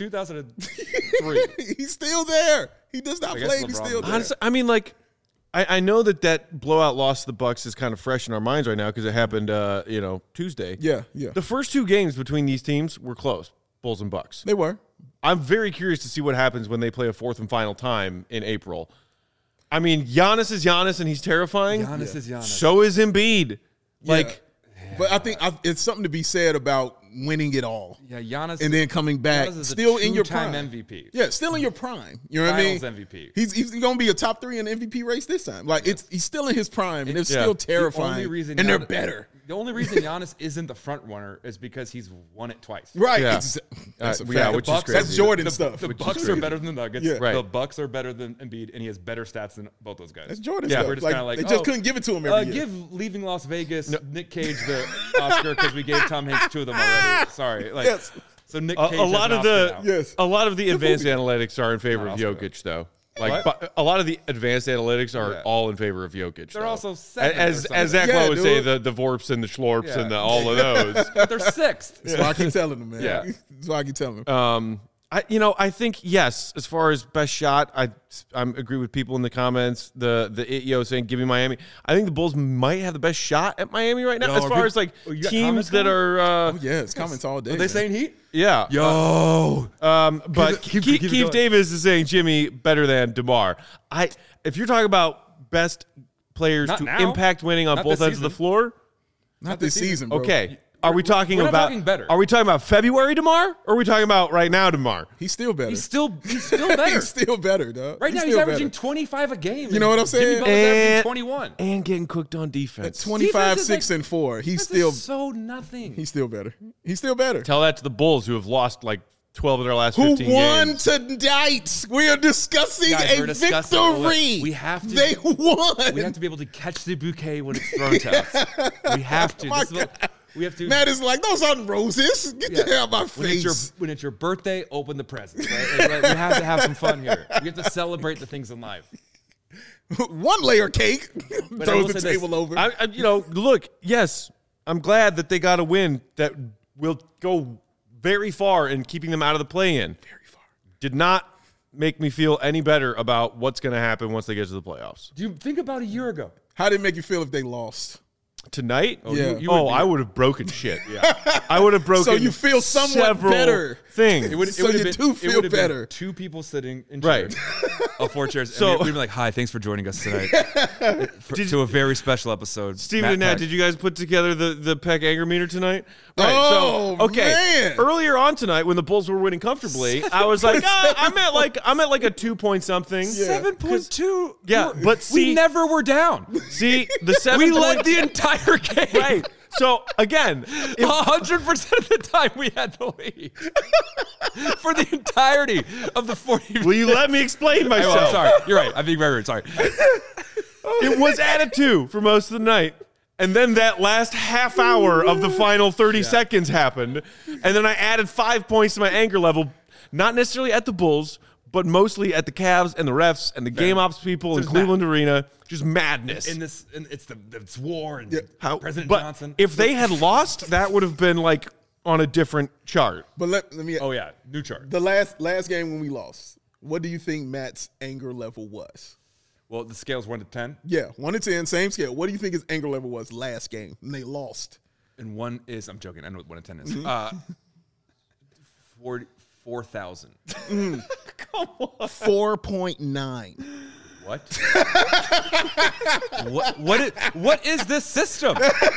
Speaker 3: 2003.
Speaker 2: He's still there. He does not
Speaker 3: I guess
Speaker 2: play. He's
Speaker 3: LeBron
Speaker 2: still
Speaker 3: was
Speaker 2: there.
Speaker 1: Honestly, I mean, like, I know that blowout loss to the Bucks is kind of fresh in our minds right now because it happened, Tuesday.
Speaker 2: Yeah.
Speaker 1: The first two games between these teams were close, Bulls and Bucks.
Speaker 2: They were.
Speaker 1: I'm very curious to see what happens when they play a fourth and final time in April. I mean, Giannis is Giannis and he's terrifying.
Speaker 3: Giannis is Giannis.
Speaker 1: So is Embiid. Like,
Speaker 2: But I think it's something to be said about winning it all.
Speaker 3: Yeah, Giannis.
Speaker 2: And then coming back,
Speaker 3: Giannis is a
Speaker 2: still in your
Speaker 3: two-time
Speaker 2: prime.
Speaker 3: MVP.
Speaker 2: Yeah, still in your prime. You know what I mean?
Speaker 3: Finals MVP.
Speaker 2: He's going to be a top 3 in the MVP race this time. Like he's still in his prime, and it's
Speaker 1: Yeah.
Speaker 2: still
Speaker 1: The
Speaker 2: terrifying.
Speaker 3: The only reason
Speaker 2: and they're
Speaker 3: Giannis-
Speaker 2: better.
Speaker 3: The only reason Giannis isn't the front runner is because he's won it twice.
Speaker 2: Right.
Speaker 1: Yeah.
Speaker 2: That's a
Speaker 1: Yeah,
Speaker 2: fact.
Speaker 1: which is
Speaker 3: Bucks-
Speaker 1: crazy.
Speaker 2: That's Jordan
Speaker 3: The,
Speaker 2: stuff.
Speaker 3: the
Speaker 1: Which is
Speaker 3: Bucks are
Speaker 1: crazy.
Speaker 3: better than the Nuggets.
Speaker 2: Yeah.
Speaker 1: Right.
Speaker 3: The Bucks are better than Embiid, and he has better stats than both those guys.
Speaker 2: That's Jordan
Speaker 1: Yeah,
Speaker 2: stuff.
Speaker 3: We're just
Speaker 2: Like,
Speaker 3: kind of like,
Speaker 2: they just couldn't give it to him every year.
Speaker 3: Give Leaving Las Vegas, Nick Cage the Oscar because we gave Tom Hanks 2 of them already. Sorry, like
Speaker 2: Yes.
Speaker 3: so Nick
Speaker 1: a
Speaker 3: Cage
Speaker 1: lot
Speaker 3: has
Speaker 1: of
Speaker 3: an
Speaker 1: the
Speaker 3: Oscar now.
Speaker 2: Yes.
Speaker 1: a lot of the advanced analytics are in favor of
Speaker 3: Not Oscar,
Speaker 1: Jokic, though. Like,
Speaker 3: What?
Speaker 1: but a lot of the advanced analytics are
Speaker 3: Yeah.
Speaker 1: all in favor of Jokic.
Speaker 3: They're
Speaker 1: though.
Speaker 3: also seventh or
Speaker 1: as
Speaker 3: something.
Speaker 1: Zach
Speaker 2: Yeah,
Speaker 1: Lowe would say,
Speaker 2: dude.
Speaker 1: the Vorps and the Schlorps
Speaker 3: Yeah.
Speaker 1: and all of those.
Speaker 3: But they're sixth.
Speaker 2: That's why I keep telling him, man.
Speaker 1: Yeah.
Speaker 2: That's why I keep telling him.
Speaker 1: I think yes. As far as best shot, I agree with people in the comments. The Ityo saying give me Miami. I think the Bulls might have the best shot at Miami right now.
Speaker 3: Yo,
Speaker 1: as
Speaker 3: are
Speaker 1: far
Speaker 3: people-
Speaker 1: as like
Speaker 3: oh, you got
Speaker 1: teams
Speaker 3: comments
Speaker 1: that
Speaker 3: coming?
Speaker 1: are,
Speaker 2: Oh, yeah, it's comments all day.
Speaker 3: Are they
Speaker 2: man.
Speaker 3: saying Heat?
Speaker 1: yeah.
Speaker 3: Yo,
Speaker 1: But
Speaker 3: keep
Speaker 1: Keith
Speaker 3: it going.
Speaker 1: Davis is saying Jimmy better than DeMar. If you're talking about best players
Speaker 3: Not
Speaker 1: to
Speaker 3: now.
Speaker 1: impact winning on
Speaker 3: Not
Speaker 1: both
Speaker 3: this
Speaker 1: ends of the
Speaker 3: season.
Speaker 1: floor,
Speaker 2: Not this season, bro.
Speaker 1: okay. Are we talking
Speaker 3: we're not
Speaker 1: about
Speaker 3: talking better.
Speaker 1: Are we talking about February DeMar? Or are we talking about right now DeMar?
Speaker 2: He's still better.
Speaker 3: he's still better.
Speaker 2: He's still better, dog.
Speaker 3: Right now, he's
Speaker 2: still
Speaker 3: averaging
Speaker 2: better.
Speaker 3: 25 a game.
Speaker 2: You know what I'm saying?
Speaker 3: Jimmy Butler's averaging
Speaker 1: And-
Speaker 3: 21.
Speaker 1: And getting cooked on defense.
Speaker 2: 25,
Speaker 3: Defense is
Speaker 2: 6,
Speaker 3: like-
Speaker 2: and 4. He's
Speaker 3: This
Speaker 2: still
Speaker 3: is so nothing.
Speaker 2: he's still better. He's still better.
Speaker 1: Tell that to the Bulls who have lost like 12 of their last
Speaker 2: Who
Speaker 1: 15
Speaker 2: won
Speaker 1: games.
Speaker 2: tonight? We are discussing
Speaker 3: Guys,
Speaker 2: a
Speaker 3: we're discussing-
Speaker 2: victory.
Speaker 3: we have to-
Speaker 2: They won.
Speaker 3: We have to be able to catch the bouquet when it's thrown to us. We have to.
Speaker 2: My
Speaker 3: This is what-
Speaker 2: God.
Speaker 3: we have to.
Speaker 2: Matt is like, those aren't roses. Get the hell out of my face.
Speaker 3: When it's your birthday, open the presents. Right? Like, we have to have some fun here. We have to celebrate the things in life.
Speaker 2: One layer cake.
Speaker 3: I
Speaker 2: Throws
Speaker 3: will
Speaker 2: the
Speaker 3: say this.
Speaker 2: table over.
Speaker 1: Look, yes, I'm glad that they got a win that will go very far in keeping them out of the play-in.
Speaker 2: Very far.
Speaker 1: Did not make me feel any better about what's going to happen once they get to the playoffs.
Speaker 3: Do you think about a year ago?
Speaker 2: How did it make you feel if they lost?
Speaker 1: Tonight?
Speaker 2: Yeah.
Speaker 1: I would have broken shit. Yeah. I would have broken
Speaker 2: So you feel somewhat
Speaker 1: several
Speaker 2: better.
Speaker 1: things.
Speaker 2: So you do feel better.
Speaker 3: Two people sitting in
Speaker 1: Right.
Speaker 3: chairs, four chairs.
Speaker 1: So-
Speaker 3: And we'd be like, "Hi, thanks for joining us tonight to a very special episode."
Speaker 1: Steven and Nat,
Speaker 3: Peck.
Speaker 1: did you guys put together the Peck anger meter tonight?
Speaker 2: Oh, man.
Speaker 1: Earlier on tonight, when the Bulls were winning comfortably, I was like, I'm at like a 2 something.
Speaker 3: 7.2?
Speaker 1: Yeah, but see-
Speaker 3: we never were down.
Speaker 1: See, the 7
Speaker 3: We
Speaker 1: point-
Speaker 3: led the entire game.
Speaker 1: right. So again,
Speaker 3: 100% of the time we had the lead for the entirety of the 40.
Speaker 1: will you let me explain
Speaker 3: I'm
Speaker 1: myself?
Speaker 3: sorry. You're right. I'm being very rude. Sorry.
Speaker 1: It was at a 2 for most of the night. And then that last half hour of the final 30 seconds happened. And then I added 5 points to my anger level, not necessarily at the Bulls, but mostly at the Cavs and the refs and the game ops people in
Speaker 3: Just
Speaker 1: Cleveland Arena. Just madness.
Speaker 3: It's war and
Speaker 1: How-
Speaker 3: President
Speaker 1: but
Speaker 3: Johnson.
Speaker 1: if they had lost, that would have been like on a different chart.
Speaker 2: But let me.
Speaker 3: Oh yeah, new chart.
Speaker 2: The last game when we lost, what do you think Matt's anger level was?
Speaker 3: Well, the scale's 1 to 10,
Speaker 2: Yeah, 1 to 10, same scale. What do you think his anger level was last game when they lost?
Speaker 3: and 1 is. I'm joking. I know what 1 to 10 is.
Speaker 2: Mm-hmm.
Speaker 3: 4,000.
Speaker 2: 4.9.
Speaker 3: What? What is this system?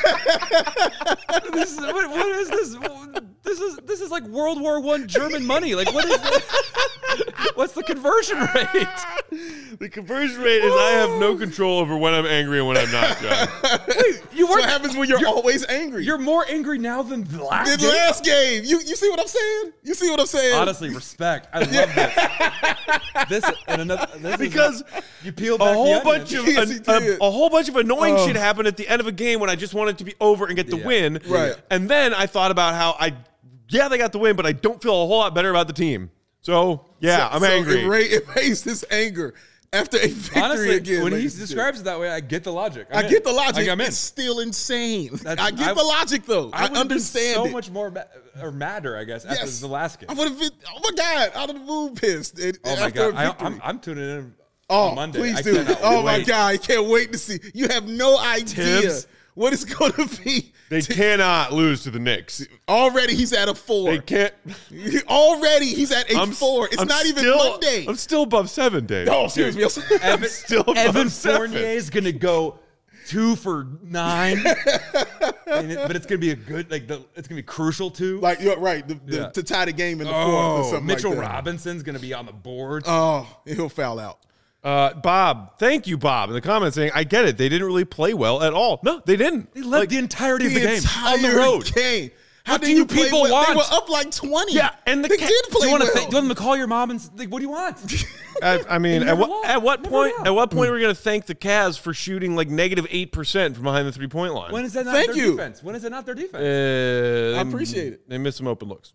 Speaker 3: What is this? This is like World War I German money. Like what is this? What's the conversion rate?
Speaker 1: The conversion rate is I have no control over when I'm angry and when I'm not, John.
Speaker 3: You
Speaker 2: So what happens when you're always angry?
Speaker 3: You're more angry now than the last
Speaker 2: the
Speaker 3: game.
Speaker 2: last game. You see what I'm saying? You see what I'm saying?
Speaker 3: Honestly, respect. I love this. This and another. This
Speaker 1: Because
Speaker 3: you peel back
Speaker 1: a whole
Speaker 3: the
Speaker 1: bunch
Speaker 3: onion.
Speaker 1: of
Speaker 2: Yes, he did.
Speaker 1: a whole bunch of annoying shit happened at the end of a game when I just wanted to be over and get the
Speaker 3: Yeah.
Speaker 1: win.
Speaker 2: Right.
Speaker 1: And then I thought about how they got the win, but I don't feel a whole lot better about the team. So I'm angry.
Speaker 2: It raised his anger after a victory
Speaker 3: Honestly,
Speaker 2: again.
Speaker 3: when he
Speaker 2: ladies and
Speaker 3: describes it that way, I get the logic.
Speaker 2: I get the logic.
Speaker 3: Like, I'm in.
Speaker 2: It's still insane.
Speaker 3: That's-
Speaker 2: I get the logic though. I
Speaker 3: would've been
Speaker 2: understand
Speaker 3: so
Speaker 2: it.
Speaker 3: much more or madder, I guess, after
Speaker 2: Yes.
Speaker 3: the last game.
Speaker 2: I would have been. Oh my god! Out of the moon, pissed.
Speaker 3: Oh my
Speaker 2: after a
Speaker 3: god,
Speaker 2: victory.
Speaker 3: I'm tuning in
Speaker 2: Oh,
Speaker 3: on Monday.
Speaker 2: please
Speaker 3: I
Speaker 2: do.
Speaker 3: cannot
Speaker 2: Oh my
Speaker 3: wait.
Speaker 2: god, I can't wait to see. You have no idea
Speaker 1: Tibbs.
Speaker 2: what it's going to be.
Speaker 1: They cannot lose to the Knicks.
Speaker 2: Already, he's at a 4.
Speaker 1: They can't.
Speaker 2: Already, he's at a 4. It's
Speaker 1: I'm
Speaker 2: not even
Speaker 1: still-
Speaker 2: Monday.
Speaker 1: I'm still above 7, Dave.
Speaker 2: Oh, excuse me.
Speaker 3: Evan,
Speaker 1: still above
Speaker 3: Evan
Speaker 1: 7.
Speaker 3: Fournier is gonna go 2 for 9, but it's gonna be a good it's gonna be crucial too.
Speaker 2: Like you're right.
Speaker 3: Yeah.
Speaker 2: To tie the game in the fourth or something
Speaker 3: Mitchell
Speaker 2: like that.
Speaker 3: Robinson's gonna be on the board.
Speaker 2: Oh, he'll foul out.
Speaker 1: Bob, thank you, Bob, in the comments saying, I get it. They didn't really play well at all. No, they didn't.
Speaker 3: They led the entirety of the game
Speaker 2: entire
Speaker 3: on the road.
Speaker 2: Game. How
Speaker 3: What
Speaker 2: did
Speaker 3: do
Speaker 2: you
Speaker 3: you
Speaker 2: play
Speaker 3: people
Speaker 2: well?
Speaker 3: want?
Speaker 2: They were up like 20.
Speaker 1: Yeah, and
Speaker 2: they did play
Speaker 3: Do you want
Speaker 2: well.
Speaker 3: them to call your mom and like, what do you want?
Speaker 1: I mean,
Speaker 3: They
Speaker 1: at
Speaker 3: never
Speaker 1: what,
Speaker 3: lost.
Speaker 1: at what
Speaker 3: Never
Speaker 1: point?
Speaker 3: lost.
Speaker 1: At what point are we going to thank the Cavs for shooting like negative 8% from behind the 3-point line?
Speaker 3: When is that not
Speaker 2: Thank
Speaker 3: their
Speaker 2: you.
Speaker 3: defense? When is it not their defense?
Speaker 1: I
Speaker 2: appreciate it.
Speaker 1: They missed some open looks.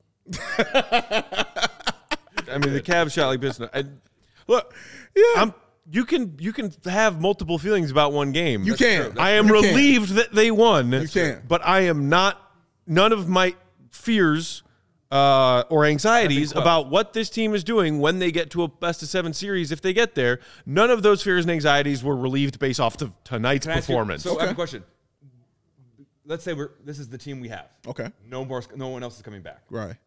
Speaker 1: I mean, the Cavs shot like business. Look, you can have multiple feelings about one game.
Speaker 2: You can.
Speaker 1: I am
Speaker 2: You can.
Speaker 1: relieved that they won.
Speaker 2: You can.
Speaker 1: But I am not. None of my fears or anxieties about what this team is doing when they get to a best-of-7 series, if they get there, none of those fears and anxieties were relieved based off of tonight's
Speaker 3: Can I ask you-
Speaker 1: performance.
Speaker 3: So I have a question. Let's say this is the team we have.
Speaker 2: Okay.
Speaker 3: No one else is coming back.
Speaker 2: Right.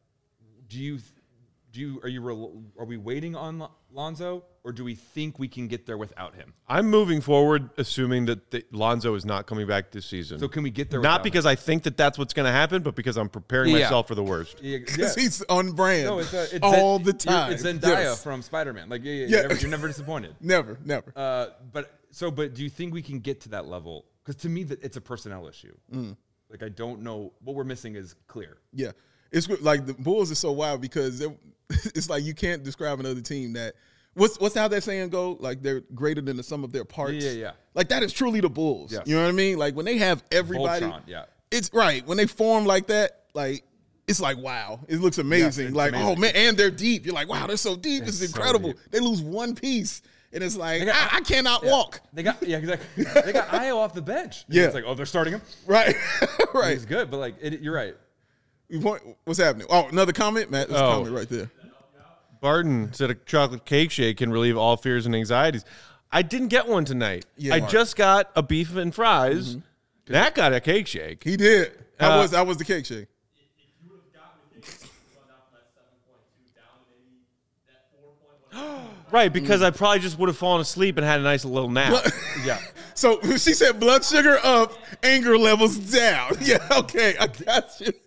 Speaker 3: Are we waiting on Lonzo, or do we think we can get there without him?
Speaker 1: I'm moving forward assuming that Lonzo is not coming back this season.
Speaker 3: So can we get there
Speaker 1: Not
Speaker 3: without
Speaker 1: because I think that that's what's going to happen, but because I'm preparing
Speaker 3: Yeah.
Speaker 1: myself for the worst.
Speaker 3: him?
Speaker 2: Because he's on brand
Speaker 3: No, it's
Speaker 2: all the time.
Speaker 3: It's Zendaya
Speaker 2: Yes.
Speaker 3: from Spider-Man. Like,
Speaker 2: Yeah.
Speaker 3: you're never disappointed.
Speaker 2: Never.
Speaker 3: But do you think we can get to that level? Because to me, it's a personnel issue. Like, I don't know what we're missing is clear.
Speaker 2: Yeah. it's like the Bulls are so wild because it's like you can't describe another team that. What's how that saying go? Like they're greater than the sum of their parts.
Speaker 3: Yeah.
Speaker 2: Like that is truly the Bulls.
Speaker 3: Yes.
Speaker 2: You know what I mean? Like when they have everybody.
Speaker 3: Voltron, yeah.
Speaker 2: It's right when they form like that. Like it's like wow, it looks amazing.
Speaker 3: Yes,
Speaker 2: like
Speaker 3: amazing.
Speaker 2: oh man, and they're deep. You're like wow, they're so deep. This is
Speaker 3: so
Speaker 2: incredible.
Speaker 3: deep.
Speaker 2: They lose one piece, and it's like
Speaker 3: got-
Speaker 2: I cannot walk.
Speaker 3: They got exactly. They got Io off the bench.
Speaker 2: Yeah.
Speaker 3: It's like, oh, they're starting him.
Speaker 2: Right, right.
Speaker 3: He's good, but like you're right.
Speaker 2: What's happening? Oh, another comment, Matt. There's a comment right there.
Speaker 1: Barton said a chocolate cake shake can relieve all fears and anxieties. I didn't get one tonight.
Speaker 2: Yeah.
Speaker 1: I just got a beef and fries. That got a cake shake.
Speaker 2: He did. How was the cake shake?
Speaker 4: If you would have gotten the cake, you would have gone down from that 7.2 down to maybe that 4.1.
Speaker 1: Right, because I probably just would have fallen asleep and had a nice little nap.
Speaker 3: Yeah.
Speaker 2: So she said blood sugar up, anger levels down. Yeah, okay, I got you.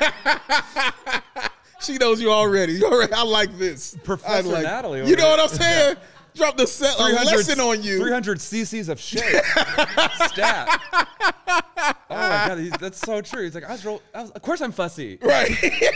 Speaker 2: She knows you already. I like this.
Speaker 3: Professor
Speaker 2: I like,
Speaker 3: Natalie over
Speaker 2: You know what I'm
Speaker 3: there.
Speaker 2: saying? Drop the a lesson on you.
Speaker 3: 300 cc's of shake. Stat. Oh my god, that's so true. He's like, of course I'm fussy.
Speaker 2: Right.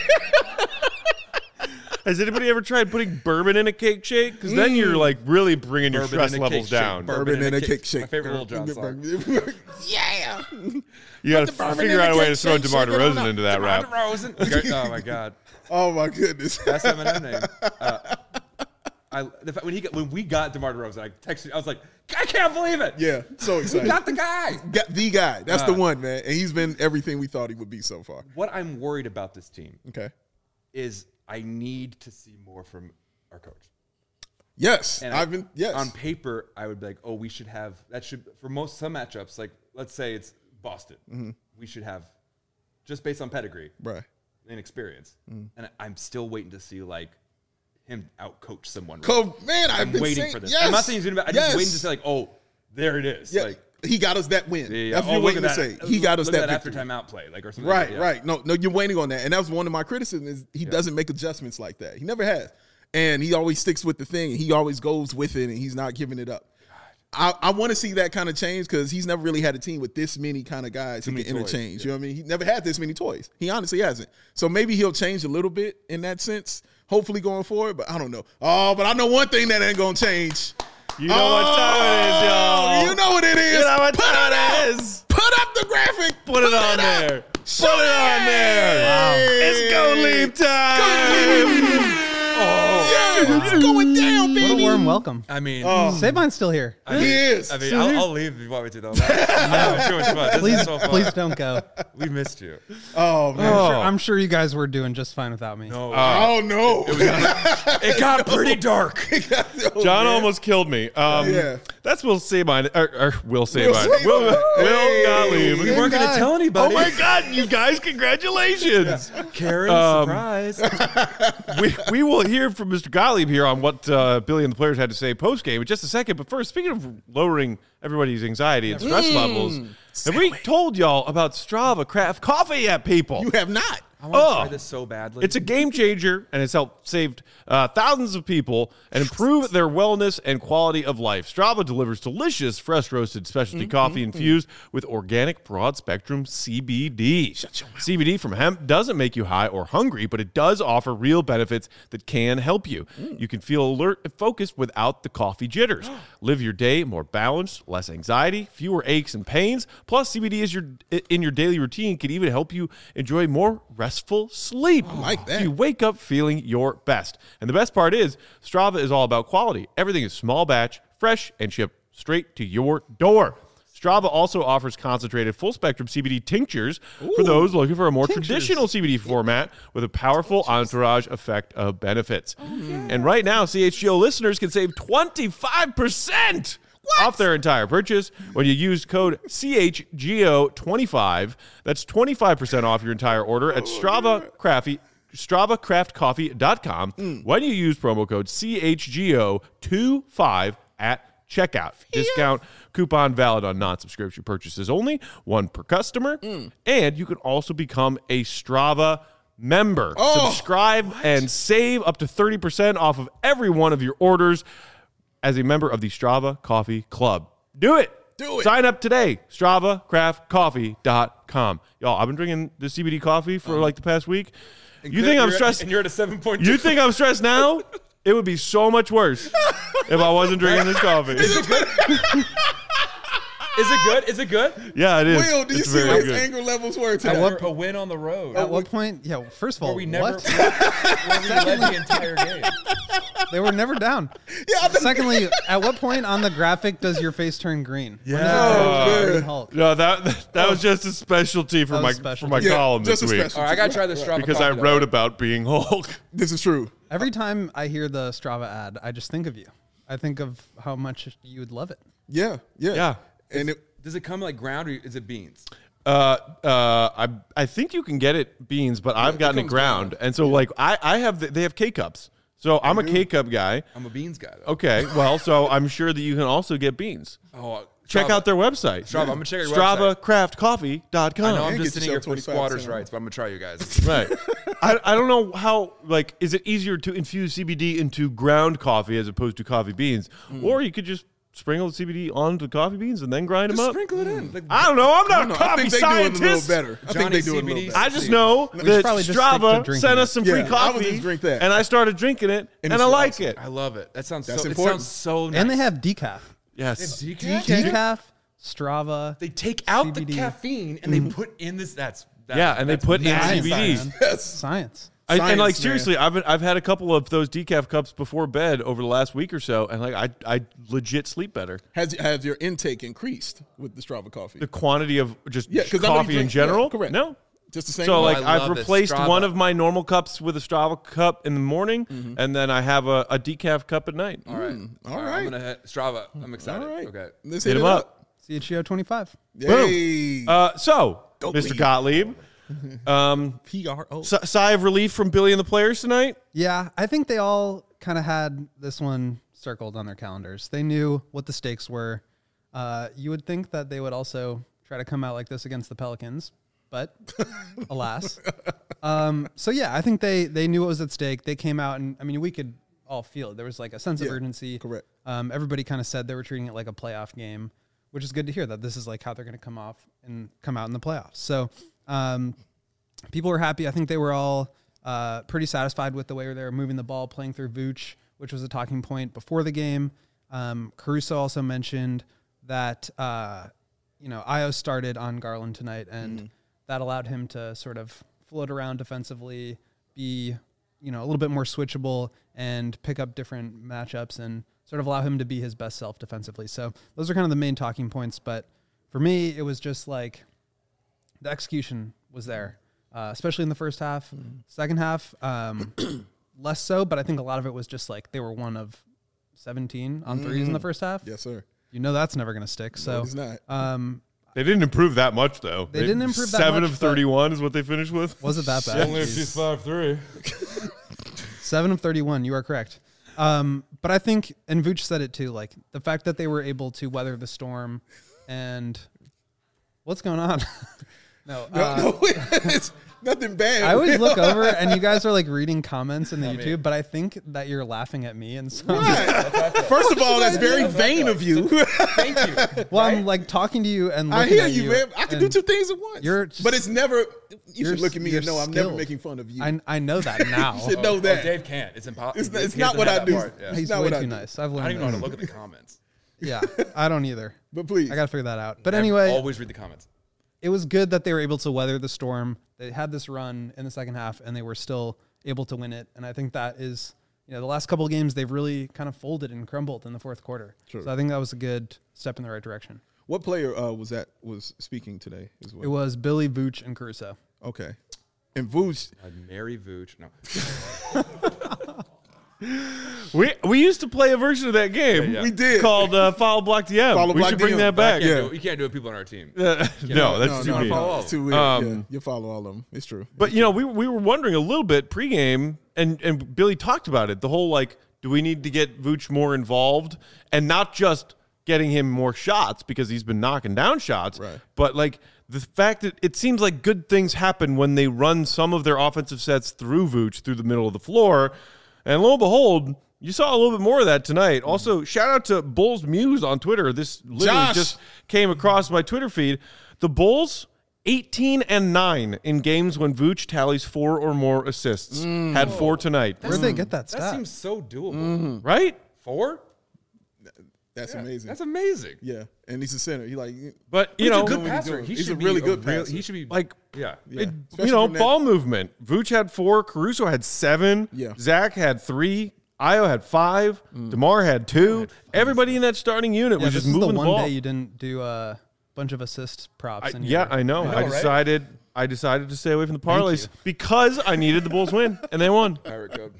Speaker 1: Has anybody ever tried putting bourbon in a cake shake? Because then you're like really bringing your
Speaker 3: Bourbon
Speaker 1: stress
Speaker 3: in a
Speaker 1: levels
Speaker 3: cake shake.
Speaker 1: down.
Speaker 2: Bourbon in a cake shake.
Speaker 3: My favorite Lil Jon song.
Speaker 2: Yeah.
Speaker 1: You got to
Speaker 2: the bourbon
Speaker 1: figure
Speaker 2: in
Speaker 1: out
Speaker 2: the
Speaker 1: a way
Speaker 2: cake
Speaker 1: to throw
Speaker 2: shake,
Speaker 1: DeMar
Speaker 2: shake it on
Speaker 1: DeRozan
Speaker 2: up.
Speaker 1: into that rap.
Speaker 3: Oh my god.
Speaker 2: Oh my goodness.
Speaker 3: That's Eminem name. When we got DeMar DeRozan, I texted you. I was like, I can't believe it.
Speaker 2: Yeah, so
Speaker 3: We
Speaker 2: excited.
Speaker 3: got the guy.
Speaker 2: Got the guy. That's the one, man. And he's been everything we thought he would be so far.
Speaker 3: What I'm worried about this team
Speaker 2: Okay.
Speaker 3: is I need to see more from our coach.
Speaker 2: Yes.
Speaker 3: And
Speaker 2: yes.
Speaker 3: On paper, I would be like, oh, we should have that. Should for some matchups, like let's say it's Boston, we should have just based on pedigree
Speaker 2: right.
Speaker 3: and experience. And I'm still waiting to see like him outcoach someone.
Speaker 2: Man,
Speaker 3: I'm
Speaker 2: I've been
Speaker 3: waiting
Speaker 2: saying,
Speaker 3: for this.
Speaker 2: Yes.
Speaker 3: I'm not saying he's gonna. I'm
Speaker 2: yes.
Speaker 3: just waiting to say like, oh, there it is.
Speaker 2: Yeah,
Speaker 3: Like,
Speaker 2: he got us that win.
Speaker 3: yeah.
Speaker 2: That's what
Speaker 3: Oh,
Speaker 2: you're
Speaker 3: look
Speaker 2: waiting
Speaker 3: at
Speaker 2: to say.
Speaker 3: that.
Speaker 2: He got us
Speaker 3: Look at
Speaker 2: that
Speaker 3: after
Speaker 2: victory.
Speaker 3: timeout play, like or something.
Speaker 2: Right,
Speaker 3: like that. Yeah.
Speaker 2: right. No, you're waiting on that. And that was one of my criticisms is he doesn't make adjustments like that. He never has. And he always sticks with the thing. And he always goes with it and he's not giving it up. I want to see that kind of change because he's never really had a team with this many kind of guys who can
Speaker 3: many toys,
Speaker 2: interchange. You know what I mean? He never had this many toys. He honestly hasn't. So maybe he'll change a little bit in that sense, hopefully going forward. But I don't know. Oh, but I know one thing that ain't going to change.
Speaker 1: You know what time it is, y'all.
Speaker 2: You know what it is.
Speaker 1: You know what
Speaker 2: Put
Speaker 1: time
Speaker 2: it
Speaker 1: it
Speaker 2: up.
Speaker 1: is.
Speaker 2: Put up the graphic.
Speaker 1: Put it on
Speaker 2: up.
Speaker 1: there.
Speaker 2: Show
Speaker 1: Put it on there.
Speaker 2: Wow.
Speaker 1: It's go leave time.
Speaker 2: Yeah, it's going down, baby.
Speaker 5: What a warm welcome.
Speaker 3: I mean,
Speaker 5: Saban's still here.
Speaker 2: He is.
Speaker 3: I mean, I'll leave if you want me to though. Too much fun. This
Speaker 5: Please,
Speaker 3: is so fun.
Speaker 5: please don't go.
Speaker 3: We missed you.
Speaker 2: Oh, man.
Speaker 5: I'm sure you guys were doing just fine without me.
Speaker 3: No,
Speaker 2: Oh, no.
Speaker 3: it got pretty dark.
Speaker 1: John almost killed me.
Speaker 2: Yeah.
Speaker 1: That's Will Sabine. Or Will Sabine.
Speaker 2: Sabine.
Speaker 1: Will
Speaker 2: Hey.
Speaker 1: Gottlieb.
Speaker 3: We weren't going to
Speaker 5: guy.
Speaker 3: tell
Speaker 1: Oh
Speaker 3: anybody.
Speaker 1: my God, you guys, congratulations.
Speaker 3: Karen, surprise.
Speaker 1: We will hear from Mr. Gottlieb here on what Billy and the players had to say post-game in just a second. But first, speaking of lowering everybody's anxiety and stress levels, have we told y'all about Strava Craft Coffee yet, people?
Speaker 2: You have not.
Speaker 3: I want to try this so badly.
Speaker 1: It's a game changer, and it's helped save thousands of people and improve their wellness and quality of life. Strava delivers delicious, fresh roasted specialty coffee infused with organic broad spectrum CBD. CBD from hemp doesn't make you high or hungry, but it does offer real benefits that can help you. You can feel alert and focused without the coffee jitters. Live your day more balanced, less anxiety, fewer aches and pains. Plus, CBD is in your daily routine can even help you enjoy more restful sleep. I
Speaker 2: like that.
Speaker 1: So you wake up feeling your best. And the best part is, Strava is all about quality. Everything is small batch, fresh, and shipped straight to your door. Strava also offers concentrated full-spectrum CBD tinctures for those looking for a more traditional CBD format with a powerful entourage effect of benefits. And right now, CHGO listeners can save 25% off their entire purchase when you use code CHGO25. That's 25% off your entire order at StravaCraftCoffee.com when you use promo code CHGO25 at checkout. Discount coupon valid on non-subscription purchases only, one per customer. And you can also become a Strava member. Subscribe and save up to 30% off of every one of your orders as a member of the Strava Coffee Club. Do it.
Speaker 2: Do it.
Speaker 1: Sign up today. StravaCraftCoffee.com. Y'all, I've been drinking the CBD coffee for like the past week. You think I'm stressed?
Speaker 3: And you're at a 7.2.
Speaker 1: You think I'm stressed now? It would be so much worse if I wasn't drinking this coffee.
Speaker 3: Is it good? Is it good?
Speaker 1: Yeah, it is.
Speaker 2: Will, do you
Speaker 1: It's
Speaker 2: see
Speaker 1: very
Speaker 2: what his
Speaker 1: good.
Speaker 2: anger levels were today?
Speaker 3: We're a win on the road.
Speaker 5: At what point? Yeah. First of all,
Speaker 3: Where we never
Speaker 5: what?
Speaker 3: where we led the entire game.
Speaker 5: They were never down.
Speaker 2: Yeah,
Speaker 5: Secondly, at what point on the graphic does your face turn green? When does it
Speaker 1: Yeah.
Speaker 5: turn Green Hulk?
Speaker 1: No, that was just a specialty for
Speaker 5: That
Speaker 1: my
Speaker 5: was
Speaker 1: for
Speaker 5: specialty.
Speaker 1: my
Speaker 2: Yeah,
Speaker 1: column
Speaker 2: just
Speaker 1: this
Speaker 2: a
Speaker 1: week
Speaker 2: special.
Speaker 3: All right, I gotta try the Strava
Speaker 1: because I
Speaker 3: coffee, though.
Speaker 1: wrote about being Hulk.
Speaker 2: This is true.
Speaker 5: Every time I hear the Strava ad, I just think of you. I think of how much you would love it.
Speaker 2: Yeah.
Speaker 1: Yeah.
Speaker 2: And
Speaker 3: Does it come like ground or is it beans?
Speaker 1: I think you can get it beans, but I've gotten it
Speaker 3: comes
Speaker 1: ground, and so like I have they have K cups, so I'm a K cup guy.
Speaker 3: I'm a beans guy though.
Speaker 1: Okay, well, so I'm sure that you can also get beans.
Speaker 3: Oh,
Speaker 1: Check
Speaker 3: Strava.
Speaker 1: out their website.
Speaker 3: Strava. I'm gonna check out your website.
Speaker 1: StravaCraftCoffee.com.
Speaker 3: I know I'm
Speaker 2: And
Speaker 3: just
Speaker 2: get
Speaker 3: sitting here
Speaker 2: yourself
Speaker 3: for squatters'
Speaker 2: 25%
Speaker 3: rights, but I'm gonna try you guys.
Speaker 1: Right. I don't know how, like, is it easier to infuse CBD into ground coffee as opposed to coffee beans? Or you could just sprinkle the CBD onto the coffee beans and then grind them
Speaker 3: Just
Speaker 1: up?
Speaker 3: sprinkle it in. Like,
Speaker 1: I don't know. I'm not a
Speaker 2: I
Speaker 1: coffee
Speaker 2: think they do it a little
Speaker 1: scientist.
Speaker 2: better. I think
Speaker 3: Johnny
Speaker 2: they do it a little
Speaker 3: CBD.
Speaker 2: better.
Speaker 1: I just know
Speaker 5: should
Speaker 1: that
Speaker 5: probably just stick to
Speaker 1: Strava
Speaker 5: drinking
Speaker 1: sent
Speaker 5: it.
Speaker 1: us some
Speaker 2: Yeah,
Speaker 1: free
Speaker 2: I would
Speaker 1: coffee,
Speaker 2: just drink that.
Speaker 1: and I started drinking it, and
Speaker 2: it's
Speaker 1: I like
Speaker 2: awesome.
Speaker 1: it.
Speaker 3: I love it. That sounds
Speaker 2: That's
Speaker 3: so.
Speaker 2: important.
Speaker 3: It sounds so nice.
Speaker 5: And they have decaf.
Speaker 1: Yes.
Speaker 5: Decaf, Strava.
Speaker 3: They take out the
Speaker 5: CBD.
Speaker 3: caffeine and they put in this.
Speaker 1: Yeah, and they put in
Speaker 5: Science,
Speaker 1: CBD.
Speaker 5: man.
Speaker 2: Yes.
Speaker 5: Science.
Speaker 1: And like
Speaker 2: Science, man.
Speaker 1: seriously, I've had a couple of those decaf cups before bed over the last week or so, and like I legit sleep better.
Speaker 2: Has your intake increased with the Strava coffee?
Speaker 1: The quantity of just
Speaker 2: 'cause I know you
Speaker 1: coffee in
Speaker 2: drink-
Speaker 1: general,
Speaker 2: yeah, correct.
Speaker 1: no.
Speaker 2: Just the same.
Speaker 1: So
Speaker 2: way?
Speaker 1: like
Speaker 3: I
Speaker 1: I've
Speaker 3: love this
Speaker 1: replaced
Speaker 3: Strava.
Speaker 1: one of my normal cups with a Strava cup in the morning, and then I have a decaf cup at night.
Speaker 3: All right.
Speaker 2: all right.
Speaker 3: I'm gonna hit Strava. I'm excited.
Speaker 2: all right.
Speaker 3: Okay.
Speaker 2: Let's
Speaker 1: Hit
Speaker 2: hit
Speaker 1: him
Speaker 2: it
Speaker 1: up.
Speaker 5: CHGO 25.
Speaker 2: Yay.
Speaker 1: So,
Speaker 2: Go
Speaker 1: Mr.
Speaker 2: Leaf.
Speaker 1: Gottlieb,
Speaker 2: PRO.
Speaker 1: sigh of relief from Billy and the players tonight.
Speaker 5: Yeah, I think they all kind of had this one circled on their calendars. They knew what the stakes were. You would think that they would also try to come out like this against the Pelicans, but alas. So yeah, I think they knew what was at stake. They came out, and I mean, we could all feel it. There was like a sense of
Speaker 2: Yeah,
Speaker 5: urgency.
Speaker 2: correct.
Speaker 5: Everybody kind of said they were treating it like a playoff game, which is good to hear that this is like how they're going to come out in the playoffs. So people were happy. I think they were all pretty satisfied with the way they were moving the ball, playing through Vooch, which was a talking point before the game. Caruso also mentioned that Io started on Garland tonight, and that allowed him to sort of float around defensively, be a little bit more switchable, and pick up different matchups and sort of allow him to be his best self defensively. So those are kind of the main talking points. But for me, it was just like the execution was there, especially in the first half. Second half, less so, but I think a lot of it was just like they were 1 of 17 on threes in the first half.
Speaker 2: Yes, sir.
Speaker 5: That's never going to stick. So
Speaker 2: It's not.
Speaker 1: They didn't improve that much, though.
Speaker 5: They didn't improve that
Speaker 1: 7
Speaker 5: much,
Speaker 1: of
Speaker 5: but-
Speaker 1: 31 is what they finished with.
Speaker 5: was it that bad?
Speaker 3: she's 5'3".
Speaker 5: 7 of 31. You are correct. But I think, and Vooch said it too, like the fact that they were able to weather the storm and what's going on? No,
Speaker 2: No, it's nothing bad.
Speaker 5: I always look over and you guys are like reading comments in the YouTube, but I think that you're laughing at me. And so,
Speaker 2: First of all, that's very vain of you.
Speaker 3: Thank you.
Speaker 5: well, I'm like talking to you and
Speaker 2: I
Speaker 5: looking
Speaker 2: hear
Speaker 5: at
Speaker 2: you, man. I can do
Speaker 5: and
Speaker 2: two things at once.
Speaker 5: you're just-
Speaker 2: but it's never. You
Speaker 5: you're
Speaker 2: should look at me and
Speaker 5: you're
Speaker 2: know I'm never
Speaker 5: skilled.
Speaker 2: making fun of you.
Speaker 5: I know that now.
Speaker 2: You should know that.
Speaker 3: Dave can't. It's impossible.
Speaker 2: It's not what I do.
Speaker 3: Yeah.
Speaker 5: He's
Speaker 2: not
Speaker 5: way
Speaker 2: what I
Speaker 5: too
Speaker 2: do.
Speaker 5: nice. I've
Speaker 3: I
Speaker 5: learned
Speaker 3: don't even know how
Speaker 5: that.
Speaker 3: to look at the comments.
Speaker 5: Yeah, I don't either.
Speaker 2: But please,
Speaker 5: I got to figure that out. But
Speaker 3: I
Speaker 5: anyway,
Speaker 3: always read the comments.
Speaker 5: it was good that they were able to weather the storm. They had this run in the second half, and they were still able to win it. And I think that is, the last couple of games, they've really kind of folded and crumbled in the fourth quarter.
Speaker 2: True.
Speaker 5: So I think that was a good step in the right direction.
Speaker 2: what player was speaking today as well?
Speaker 5: It was Billy, Vooch, and Caruso.
Speaker 2: Okay. And Vooch,
Speaker 3: Mary Vooch. No.
Speaker 1: We used to play a version of that game.
Speaker 3: Yeah.
Speaker 2: we did.
Speaker 1: Called Follow Block DM.
Speaker 2: Follow
Speaker 1: we
Speaker 2: Block
Speaker 1: should bring
Speaker 2: DM.
Speaker 1: that back.
Speaker 2: Yeah.
Speaker 3: You can't do it. People on our team.
Speaker 1: No, that's
Speaker 2: no,
Speaker 1: too
Speaker 2: no,
Speaker 1: mean.
Speaker 2: no, it's too weird. Yeah, you follow all of them. It's true.
Speaker 1: But we were wondering a little bit pregame, and Billy talked about it. The whole like, do we need to get Vooch more involved, and not just getting him more shots because he's been knocking down shots,
Speaker 2: Right.
Speaker 1: but like the fact that it seems like good things happen when they run some of their offensive sets through Vooch through the middle of the floor, and lo and behold, you saw a little bit more of that tonight. Also, shout out to Bulls Muse on Twitter. This literally
Speaker 2: Josh.
Speaker 1: just came across my Twitter feed. The Bulls 18-9 in games when Vooch tallies 4 or more assists. Had 4 tonight.
Speaker 5: Where'd they get that
Speaker 3: That
Speaker 5: stat?
Speaker 3: seems so doable.
Speaker 1: Right?
Speaker 3: 4?
Speaker 2: That's amazing.
Speaker 3: That's amazing.
Speaker 2: Yeah, and he's a center. He like,
Speaker 1: But, you
Speaker 3: He's
Speaker 1: know,
Speaker 3: a good
Speaker 2: what he's
Speaker 3: passer.
Speaker 2: doing.
Speaker 3: He
Speaker 2: He's
Speaker 3: should
Speaker 2: a
Speaker 3: be
Speaker 2: really good passer.
Speaker 3: He should be
Speaker 1: like,
Speaker 3: yeah.
Speaker 2: yeah.
Speaker 1: you
Speaker 2: Especially
Speaker 1: know,
Speaker 2: from that-
Speaker 1: ball movement. Vooch had 4. Caruso had 7.
Speaker 2: Yeah.
Speaker 1: Zach had 3. Io had 5. DeMar had 2. Everybody in that starting unit
Speaker 5: Yeah,
Speaker 1: was
Speaker 5: this
Speaker 1: just
Speaker 5: is the
Speaker 1: moving the
Speaker 5: one
Speaker 1: ball.
Speaker 5: day you didn't do a bunch of assist props. in
Speaker 1: Yeah,
Speaker 5: your-
Speaker 1: I know. I
Speaker 3: right?
Speaker 1: decided to stay away from the parlays because I needed the Bulls win, and they won.
Speaker 3: Pirate code.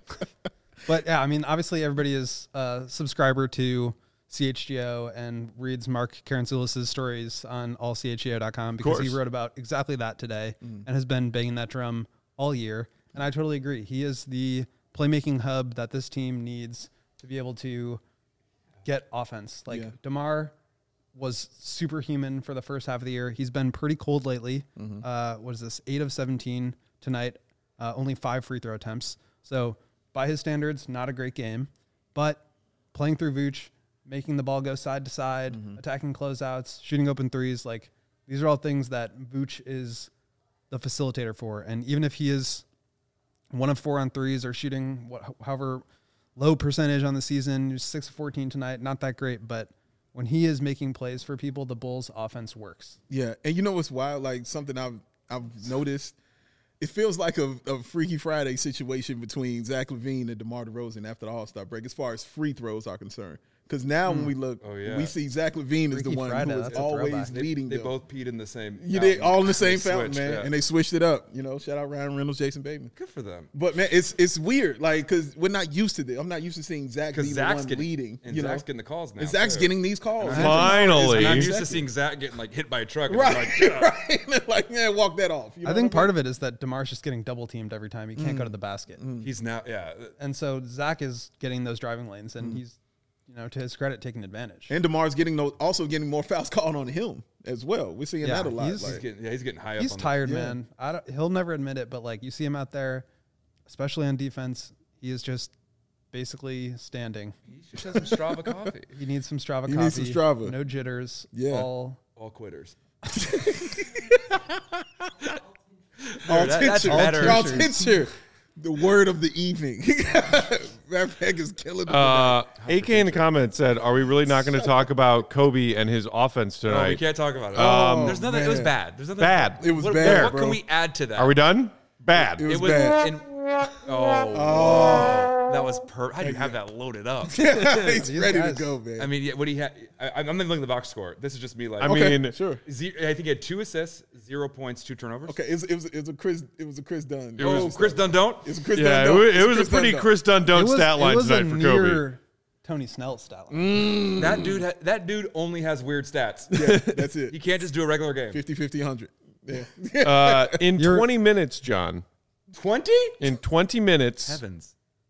Speaker 5: But yeah, I mean, obviously everybody is a subscriber to CHGO and reads Mark Karantzoulis' stories on allchgo.com because he
Speaker 1: course.
Speaker 5: wrote about exactly that today and has been banging that drum all year. And I totally agree. He is the playmaking hub that this team needs to be able to get offense. Like
Speaker 2: Yeah.
Speaker 5: DeMar was superhuman for the first half of the year. He's been pretty cold lately. What is this? 8 of 17 tonight. Only 5 free throw attempts. So by his standards, not a great game. But playing through Vooch, making the ball go side to side, attacking closeouts, shooting open threes, like these are all things that Vooch is the facilitator for. And even if he is 1 of 4 on threes or shooting however low percentage on the season, he's 6 of 14 tonight, not that great, but when he is making plays for people, the Bulls offense works.
Speaker 2: Yeah, and you know what's wild? Like something I've noticed. It feels like a Freaky Friday situation between Zach LaVine and DeMar DeRozan after the All-Star break, as far as free throws are concerned. Because now when we look,
Speaker 3: yeah.
Speaker 2: we see Zach LaVine is the
Speaker 5: Freaky
Speaker 2: one
Speaker 5: Friday,
Speaker 2: who is
Speaker 5: that's a
Speaker 2: always
Speaker 5: throwback.
Speaker 2: leading
Speaker 3: They
Speaker 2: them.
Speaker 3: both peed in the same.
Speaker 2: You did
Speaker 3: fountain.
Speaker 2: all in the same
Speaker 3: They
Speaker 2: fountain,
Speaker 3: switched,
Speaker 2: man,
Speaker 3: yeah.
Speaker 2: and they switched it up. You know, shout out Ryan Reynolds, Jason Bateman.
Speaker 3: Good for them.
Speaker 2: But man, it's weird, like because we're not used to this. I'm not used to seeing Zach be
Speaker 3: Because
Speaker 2: the
Speaker 3: Zach's
Speaker 2: one
Speaker 3: getting
Speaker 2: leading.
Speaker 3: and
Speaker 2: You know,
Speaker 3: Zach's getting the calls now.
Speaker 2: and Zach's
Speaker 3: too.
Speaker 2: getting these calls.
Speaker 1: Finally.
Speaker 3: And I'm used
Speaker 2: Exactly.
Speaker 3: to seeing Zach getting like hit by a truck. And
Speaker 2: Right,
Speaker 3: Like, get up.
Speaker 2: right. Like, man, walk that off. You know
Speaker 5: I think
Speaker 2: what
Speaker 5: part of it is that DeMar's just getting double teamed every time. He can't go to the basket.
Speaker 3: He's now, yeah.
Speaker 5: And so Zach is getting those driving lanes, and he's, to his credit, taking advantage.
Speaker 2: And DeMar's also getting more fouls called on him as well. We're seeing
Speaker 5: Yeah,
Speaker 2: that a lot.
Speaker 5: he's-
Speaker 2: like,
Speaker 3: He's getting high up.
Speaker 5: He's
Speaker 3: on
Speaker 5: tired,
Speaker 2: yeah.
Speaker 5: man. He'll never admit it, but like you see him out there, especially on defense, he is just basically standing.
Speaker 3: He should have some Strava coffee.
Speaker 5: He needs some Strava
Speaker 2: He
Speaker 5: coffee.
Speaker 2: needs some Strava.
Speaker 5: No jitters.
Speaker 2: Yeah.
Speaker 5: All
Speaker 3: All quitters.
Speaker 2: all
Speaker 3: that's
Speaker 2: tincture.
Speaker 3: better.
Speaker 2: All tincture. The word of the evening. That peg is killing the
Speaker 1: AK in the comments said, "Are we really not going to talk about Kobe and his offense
Speaker 3: No,
Speaker 1: tonight?
Speaker 3: we can't talk about it.
Speaker 2: Oh,
Speaker 3: There's nothing. It was
Speaker 2: man.
Speaker 3: bad. There's nothing
Speaker 1: Bad.
Speaker 2: It was
Speaker 3: what,
Speaker 2: bad,
Speaker 3: What
Speaker 2: bro.
Speaker 3: can we add to that?
Speaker 1: Are we done? Bad.
Speaker 2: It was bad.
Speaker 3: That was How do you have that loaded up?
Speaker 2: He's
Speaker 5: These
Speaker 2: ready
Speaker 5: guys-
Speaker 2: to go, man.
Speaker 3: I mean, yeah, what he had. I'm looking at the box score. This is just me. Like,
Speaker 1: I
Speaker 2: okay,
Speaker 1: mean,
Speaker 2: sure.
Speaker 3: I think he had 2 assists, 0 points, 2 turnovers.
Speaker 2: Okay, it was a Chris Dunn.
Speaker 3: Chris Dunn don't.
Speaker 2: It's a Chris
Speaker 1: yeah,
Speaker 2: Dunn.
Speaker 1: it was a pretty Chris Dunn don't stat line tonight for Kobe.
Speaker 5: near Tony Snell stat line.
Speaker 3: That dude only has weird stats.
Speaker 2: Yeah, that's
Speaker 3: He
Speaker 2: it.
Speaker 3: can't just do a regular game.
Speaker 2: 50, 100. Yeah.
Speaker 1: In 20 minutes, John.
Speaker 3: 20?
Speaker 1: In 20 minutes,
Speaker 3: Heavens.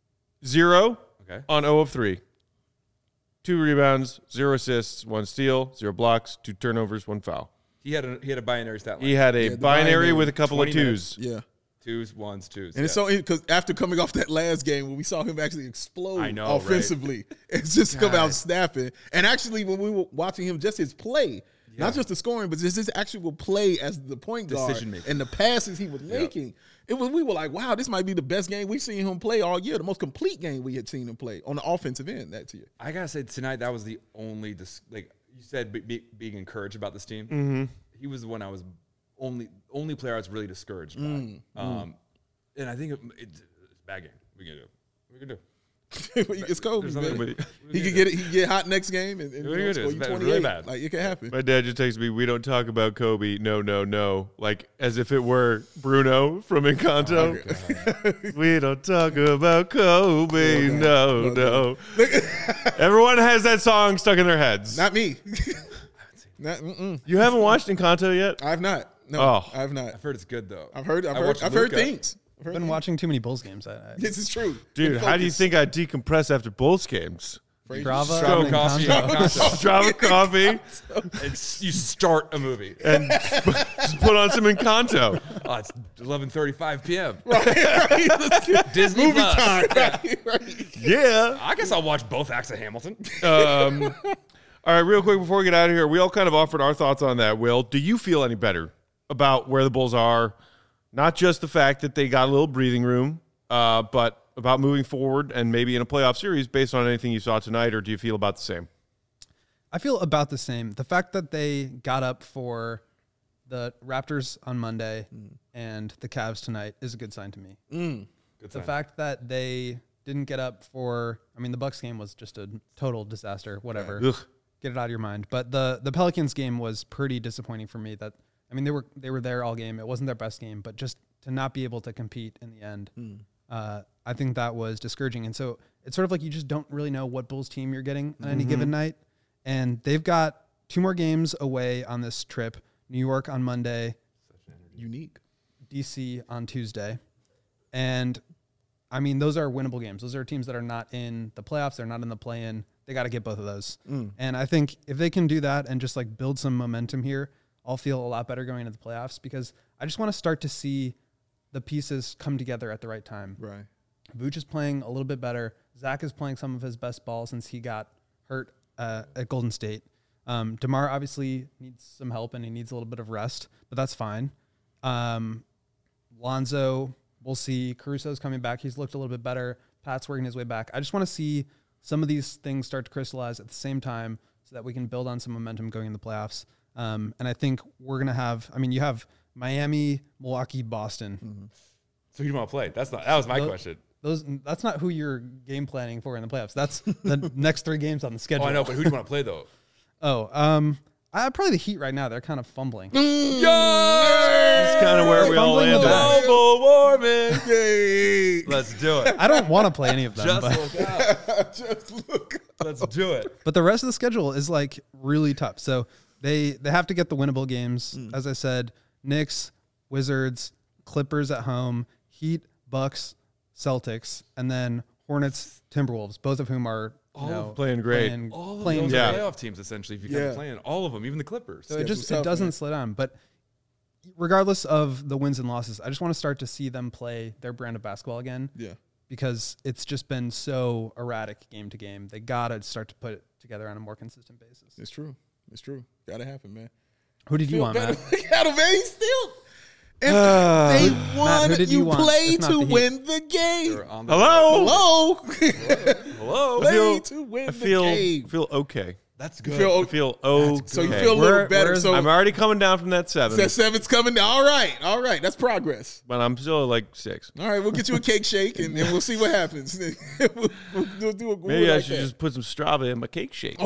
Speaker 1: 0
Speaker 3: Okay.
Speaker 1: on 0 of 3. 2 rebounds, 0 assists, 1 steal, 0 blocks, 2 turnovers, 1 foul.
Speaker 3: He had a binary stat line.
Speaker 1: He had a
Speaker 2: the
Speaker 1: binary
Speaker 2: binary,
Speaker 1: with a couple of
Speaker 3: 20 minutes.
Speaker 1: twos.
Speaker 2: Yeah.
Speaker 3: 2s, 1s, 2s.
Speaker 2: And it's so because after coming off that last game when we saw him actually explode
Speaker 3: I know,
Speaker 2: offensively, it's just come out snapping. And actually, when we were watching him, just his play, not just the scoring, but just his actual play as the point guard
Speaker 3: Decision-making.
Speaker 2: and the passes he was making. We were like, wow, this might be the best game we've seen him play all year, the most complete game we had seen him play on the offensive end that year.
Speaker 3: I gotta say tonight that was the only like you said being encouraged about this team.
Speaker 1: Mm-hmm.
Speaker 3: He was the one I was only player I was really discouraged by. And I think it's a bad game. We can do.
Speaker 2: It's Kobe,
Speaker 3: There's nothing
Speaker 2: man.
Speaker 3: we
Speaker 2: He could get hot next game and
Speaker 3: What are you gonna do?
Speaker 2: score
Speaker 3: It's
Speaker 2: you
Speaker 3: bad,
Speaker 2: 28.
Speaker 3: really bad.
Speaker 2: Like it can happen.
Speaker 1: My dad just texted me, "We don't talk about Kobe. No, no, no." Like as if it were Bruno from Encanto. We don't talk about Kobe. No, no. Everyone has that song stuck in their heads.
Speaker 2: Not me.
Speaker 1: You haven't watched Encanto yet?
Speaker 2: I've not. No,
Speaker 1: Oh.
Speaker 2: I've not.
Speaker 3: I've heard it's good though.
Speaker 2: I've heard
Speaker 3: watched Luca.
Speaker 2: things. I've heard
Speaker 5: Been
Speaker 2: things.
Speaker 5: watching too many Bulls games.
Speaker 2: This is true.
Speaker 1: Dude,
Speaker 2: Been
Speaker 1: how do you
Speaker 2: focused.
Speaker 1: think I decompress after Bulls games?
Speaker 5: Strava,
Speaker 3: Strava
Speaker 5: and
Speaker 3: coffee.
Speaker 5: Encanto.
Speaker 1: Strava coffee
Speaker 3: You start a movie.
Speaker 1: and just put on some Encanto.
Speaker 3: Oh, it's 11:35 p.m.
Speaker 2: Right.
Speaker 3: Disney
Speaker 2: Movie
Speaker 3: Plus.
Speaker 2: time. Right.
Speaker 1: Yeah.
Speaker 3: I guess I'll watch both acts of Hamilton.
Speaker 1: All right, real quick before we get out of here, we all kind of offered our thoughts on that. Will, do you feel any better about where the Bulls are, not just the fact that they got a little breathing room, but about moving forward and maybe in a playoff series based on anything you saw tonight, or do you feel about the same?
Speaker 5: I feel about the same. The fact that they got up for the Raptors on Monday and the Cavs tonight is a good sign to me.
Speaker 3: Good
Speaker 5: The
Speaker 3: sign.
Speaker 5: fact that they didn't get up for, I mean, the Bucks game was just a total disaster, whatever.
Speaker 1: Ugh.
Speaker 5: Get it out of your mind. But the Pelicans game was pretty disappointing for me. That, I mean, they were there all game. It wasn't their best game, but just to not be able to compete in the end, I think that was discouraging. And so it's sort of like you just don't really know what Bulls team you're getting on any given night. And they've got 2 more games away on this trip. New York on Monday,
Speaker 2: Unique.
Speaker 5: DC on Tuesday. And I mean, those are winnable games. Those are teams that are not in the playoffs. They're not in the play-in. They got to get both of those. And I think if they can do that and just like build some momentum here, I'll feel a lot better going into the playoffs, because I just want to start to see the pieces come together at the right time.
Speaker 2: Right.
Speaker 5: Vooch is playing a little bit better. Zach is playing some of his best ball since he got hurt at Golden State. DeMar obviously needs some help and he needs a little bit of rest, but that's fine. Lonzo, we'll see. Caruso's coming back. He's looked a little bit better. Pat's working his way back. I just want to see some of these things start to crystallize at the same time so that we can build on some momentum going in the playoffs. And I think we're going to have, I mean, you have Miami, Milwaukee, Boston.
Speaker 3: So who do you want to play? That was my question.
Speaker 5: That's not who you're game planning for in the playoffs. That's the next 3 games on the schedule.
Speaker 3: Oh, I know, but who do you want to play though?
Speaker 5: Probably the Heat right now. They're kind of fumbling.
Speaker 1: That's kind of where we all
Speaker 5: Fumbling
Speaker 1: landed.
Speaker 5: the ball.
Speaker 3: Global warming.
Speaker 2: Yay.
Speaker 3: Let's do it.
Speaker 5: I don't want to play any of them,
Speaker 3: Just
Speaker 5: but,
Speaker 3: look out.
Speaker 2: Just look.
Speaker 3: Let's do it.
Speaker 5: but the rest of the schedule is like really tough. So they have to get the winnable games. As I said, Knicks, Wizards, Clippers at home, Heat, Bucks, Celtics, and then Hornets, Timberwolves, both of whom are
Speaker 1: playing great.
Speaker 3: All of
Speaker 5: playing
Speaker 3: those
Speaker 1: Yeah.
Speaker 3: are playoff teams, essentially, if you come playing. All of them, even the Clippers.
Speaker 5: So it
Speaker 2: Schedule's
Speaker 5: just
Speaker 2: tough,
Speaker 5: it doesn't
Speaker 2: man.
Speaker 5: slow down. But regardless of the wins and losses, I just want to start to see them play their brand of basketball again.
Speaker 2: Yeah.
Speaker 5: Because it's just been so erratic game to game. They gotta start to put it together on a more consistent basis.
Speaker 2: It's true. It's true. Gotta happen, man.
Speaker 5: Who did you want, Matt?
Speaker 2: Gotta, man. He's still. If they
Speaker 5: Matt,
Speaker 2: won,
Speaker 5: who did you want?
Speaker 2: play
Speaker 5: It's not
Speaker 2: to
Speaker 5: the Heat.
Speaker 2: win the game.
Speaker 3: They're on the-
Speaker 1: Hello?
Speaker 2: Hello.
Speaker 3: Hello.
Speaker 2: Play to win
Speaker 1: I
Speaker 2: the
Speaker 1: feel
Speaker 2: game.
Speaker 1: okay.
Speaker 3: That's
Speaker 2: You
Speaker 3: good.
Speaker 2: feel
Speaker 1: I
Speaker 2: okay.
Speaker 1: feel okay.
Speaker 2: So you feel a little better.
Speaker 5: where's-
Speaker 2: So
Speaker 1: I'm already coming down from that 7,
Speaker 2: that 7's coming. All right. All right. That's progress.
Speaker 1: but I'm still like 6.
Speaker 2: All right. We'll get you a cake shake and we'll see what happens. we'll do a
Speaker 1: Maybe I
Speaker 2: like
Speaker 1: should
Speaker 2: that.
Speaker 1: just put some Strava in my cake shake.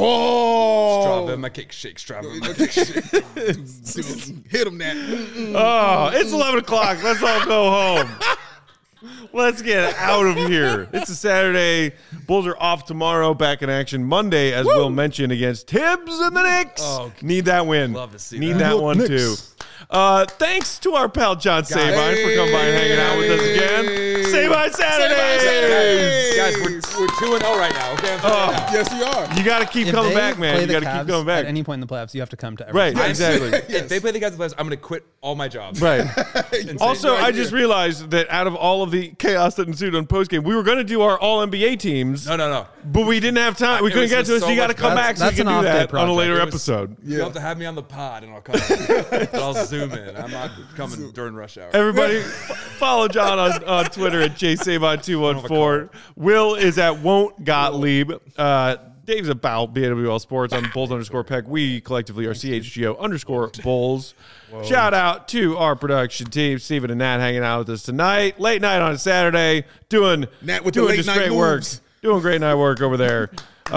Speaker 2: Oh.
Speaker 3: Strava, my cake shake, Strava, my
Speaker 2: My
Speaker 3: cake
Speaker 2: cake
Speaker 3: shake.
Speaker 2: shake. Hit him that.
Speaker 1: Oh, it's 11 o'clock. Let's all go home. Let's get out of here. It's a Saturday. Bulls are off tomorrow. Back in action Monday, as Will mentioned, against Tibbs and the Knicks.
Speaker 3: Oh,
Speaker 1: Need that win.
Speaker 3: love to see
Speaker 1: Need
Speaker 3: that.
Speaker 1: that one
Speaker 2: Knicks.
Speaker 1: too. Thanks to our pal John Sabine for coming by and hanging out with us again. Sabine Saturday.
Speaker 3: Guys, we're 2-0 right now. Okay, I'm telling you now.
Speaker 2: Yes, you are.
Speaker 1: You got to keep
Speaker 5: If
Speaker 1: coming
Speaker 5: they
Speaker 1: back,
Speaker 5: play
Speaker 1: man. You
Speaker 5: the
Speaker 1: got to keep
Speaker 5: Cavs
Speaker 1: coming back.
Speaker 5: At any point in the playoffs, you have to come to every
Speaker 1: Right,
Speaker 5: game.
Speaker 1: exactly.
Speaker 3: If they play the guys in the playoffs, I'm going to quit all my jobs.
Speaker 1: Right. Also,
Speaker 2: right
Speaker 1: I just realized that out of all of the chaos that ensued on postgame, we were going to do our All NBA teams,
Speaker 3: No.
Speaker 1: but we didn't have time. We
Speaker 3: It
Speaker 1: couldn't
Speaker 3: was
Speaker 1: get
Speaker 3: just
Speaker 1: to it, so
Speaker 3: so
Speaker 1: you got to
Speaker 3: much
Speaker 1: come
Speaker 3: better.
Speaker 1: back so you
Speaker 5: That's
Speaker 1: can
Speaker 5: an
Speaker 1: do
Speaker 5: off-day
Speaker 1: that on a
Speaker 5: project.
Speaker 1: later
Speaker 3: It was-
Speaker 1: episode.
Speaker 3: You'll have to have me on the pod, and I'll come. I'll zoom in. I'm not coming during rush hour.
Speaker 1: Everybody, follow John on Twitter at jsabon214. Will is at Won't Gottlieb. Dave's about BWL Sports on Bulls_Peck. We collectively are CHGO_Bulls. Shout out to our production team, Steven and Nat, hanging out with us tonight. Late night on a Saturday, doing
Speaker 2: Nat with the
Speaker 1: doing
Speaker 2: late
Speaker 1: just
Speaker 2: night
Speaker 1: great work.
Speaker 2: moves.
Speaker 1: Doing great night work over there.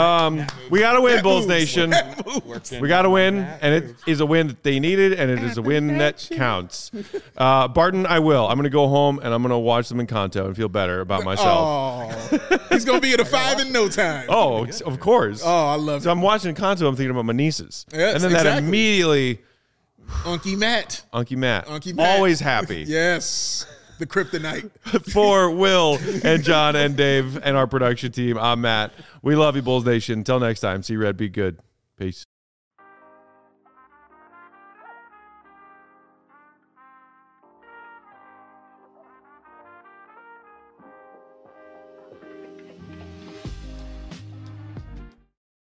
Speaker 1: We got to win, Bulls Nation. We got to win, and it is a win that they needed, and it is a win that counts. Barton, I will. I'm going to go home, and I'm going to watch them in Kanto and feel better about myself.
Speaker 2: Oh, he's gonna be at a 5 in no time.
Speaker 1: Oh, of course.
Speaker 2: Oh, I love
Speaker 1: So
Speaker 2: it.
Speaker 1: I'm watching Kanto, I'm thinking about my nieces.
Speaker 2: Yes,
Speaker 1: and then that
Speaker 2: exactly.
Speaker 1: immediately,
Speaker 2: Unky Matt.
Speaker 1: Unky Matt.
Speaker 2: Unky Matt.
Speaker 1: Always happy.
Speaker 2: Yes, the kryptonite.
Speaker 1: For Will and John and Dave and our production team, I'm Matt. We love you, Bulls Nation. Until next time, see Red, be good. Peace.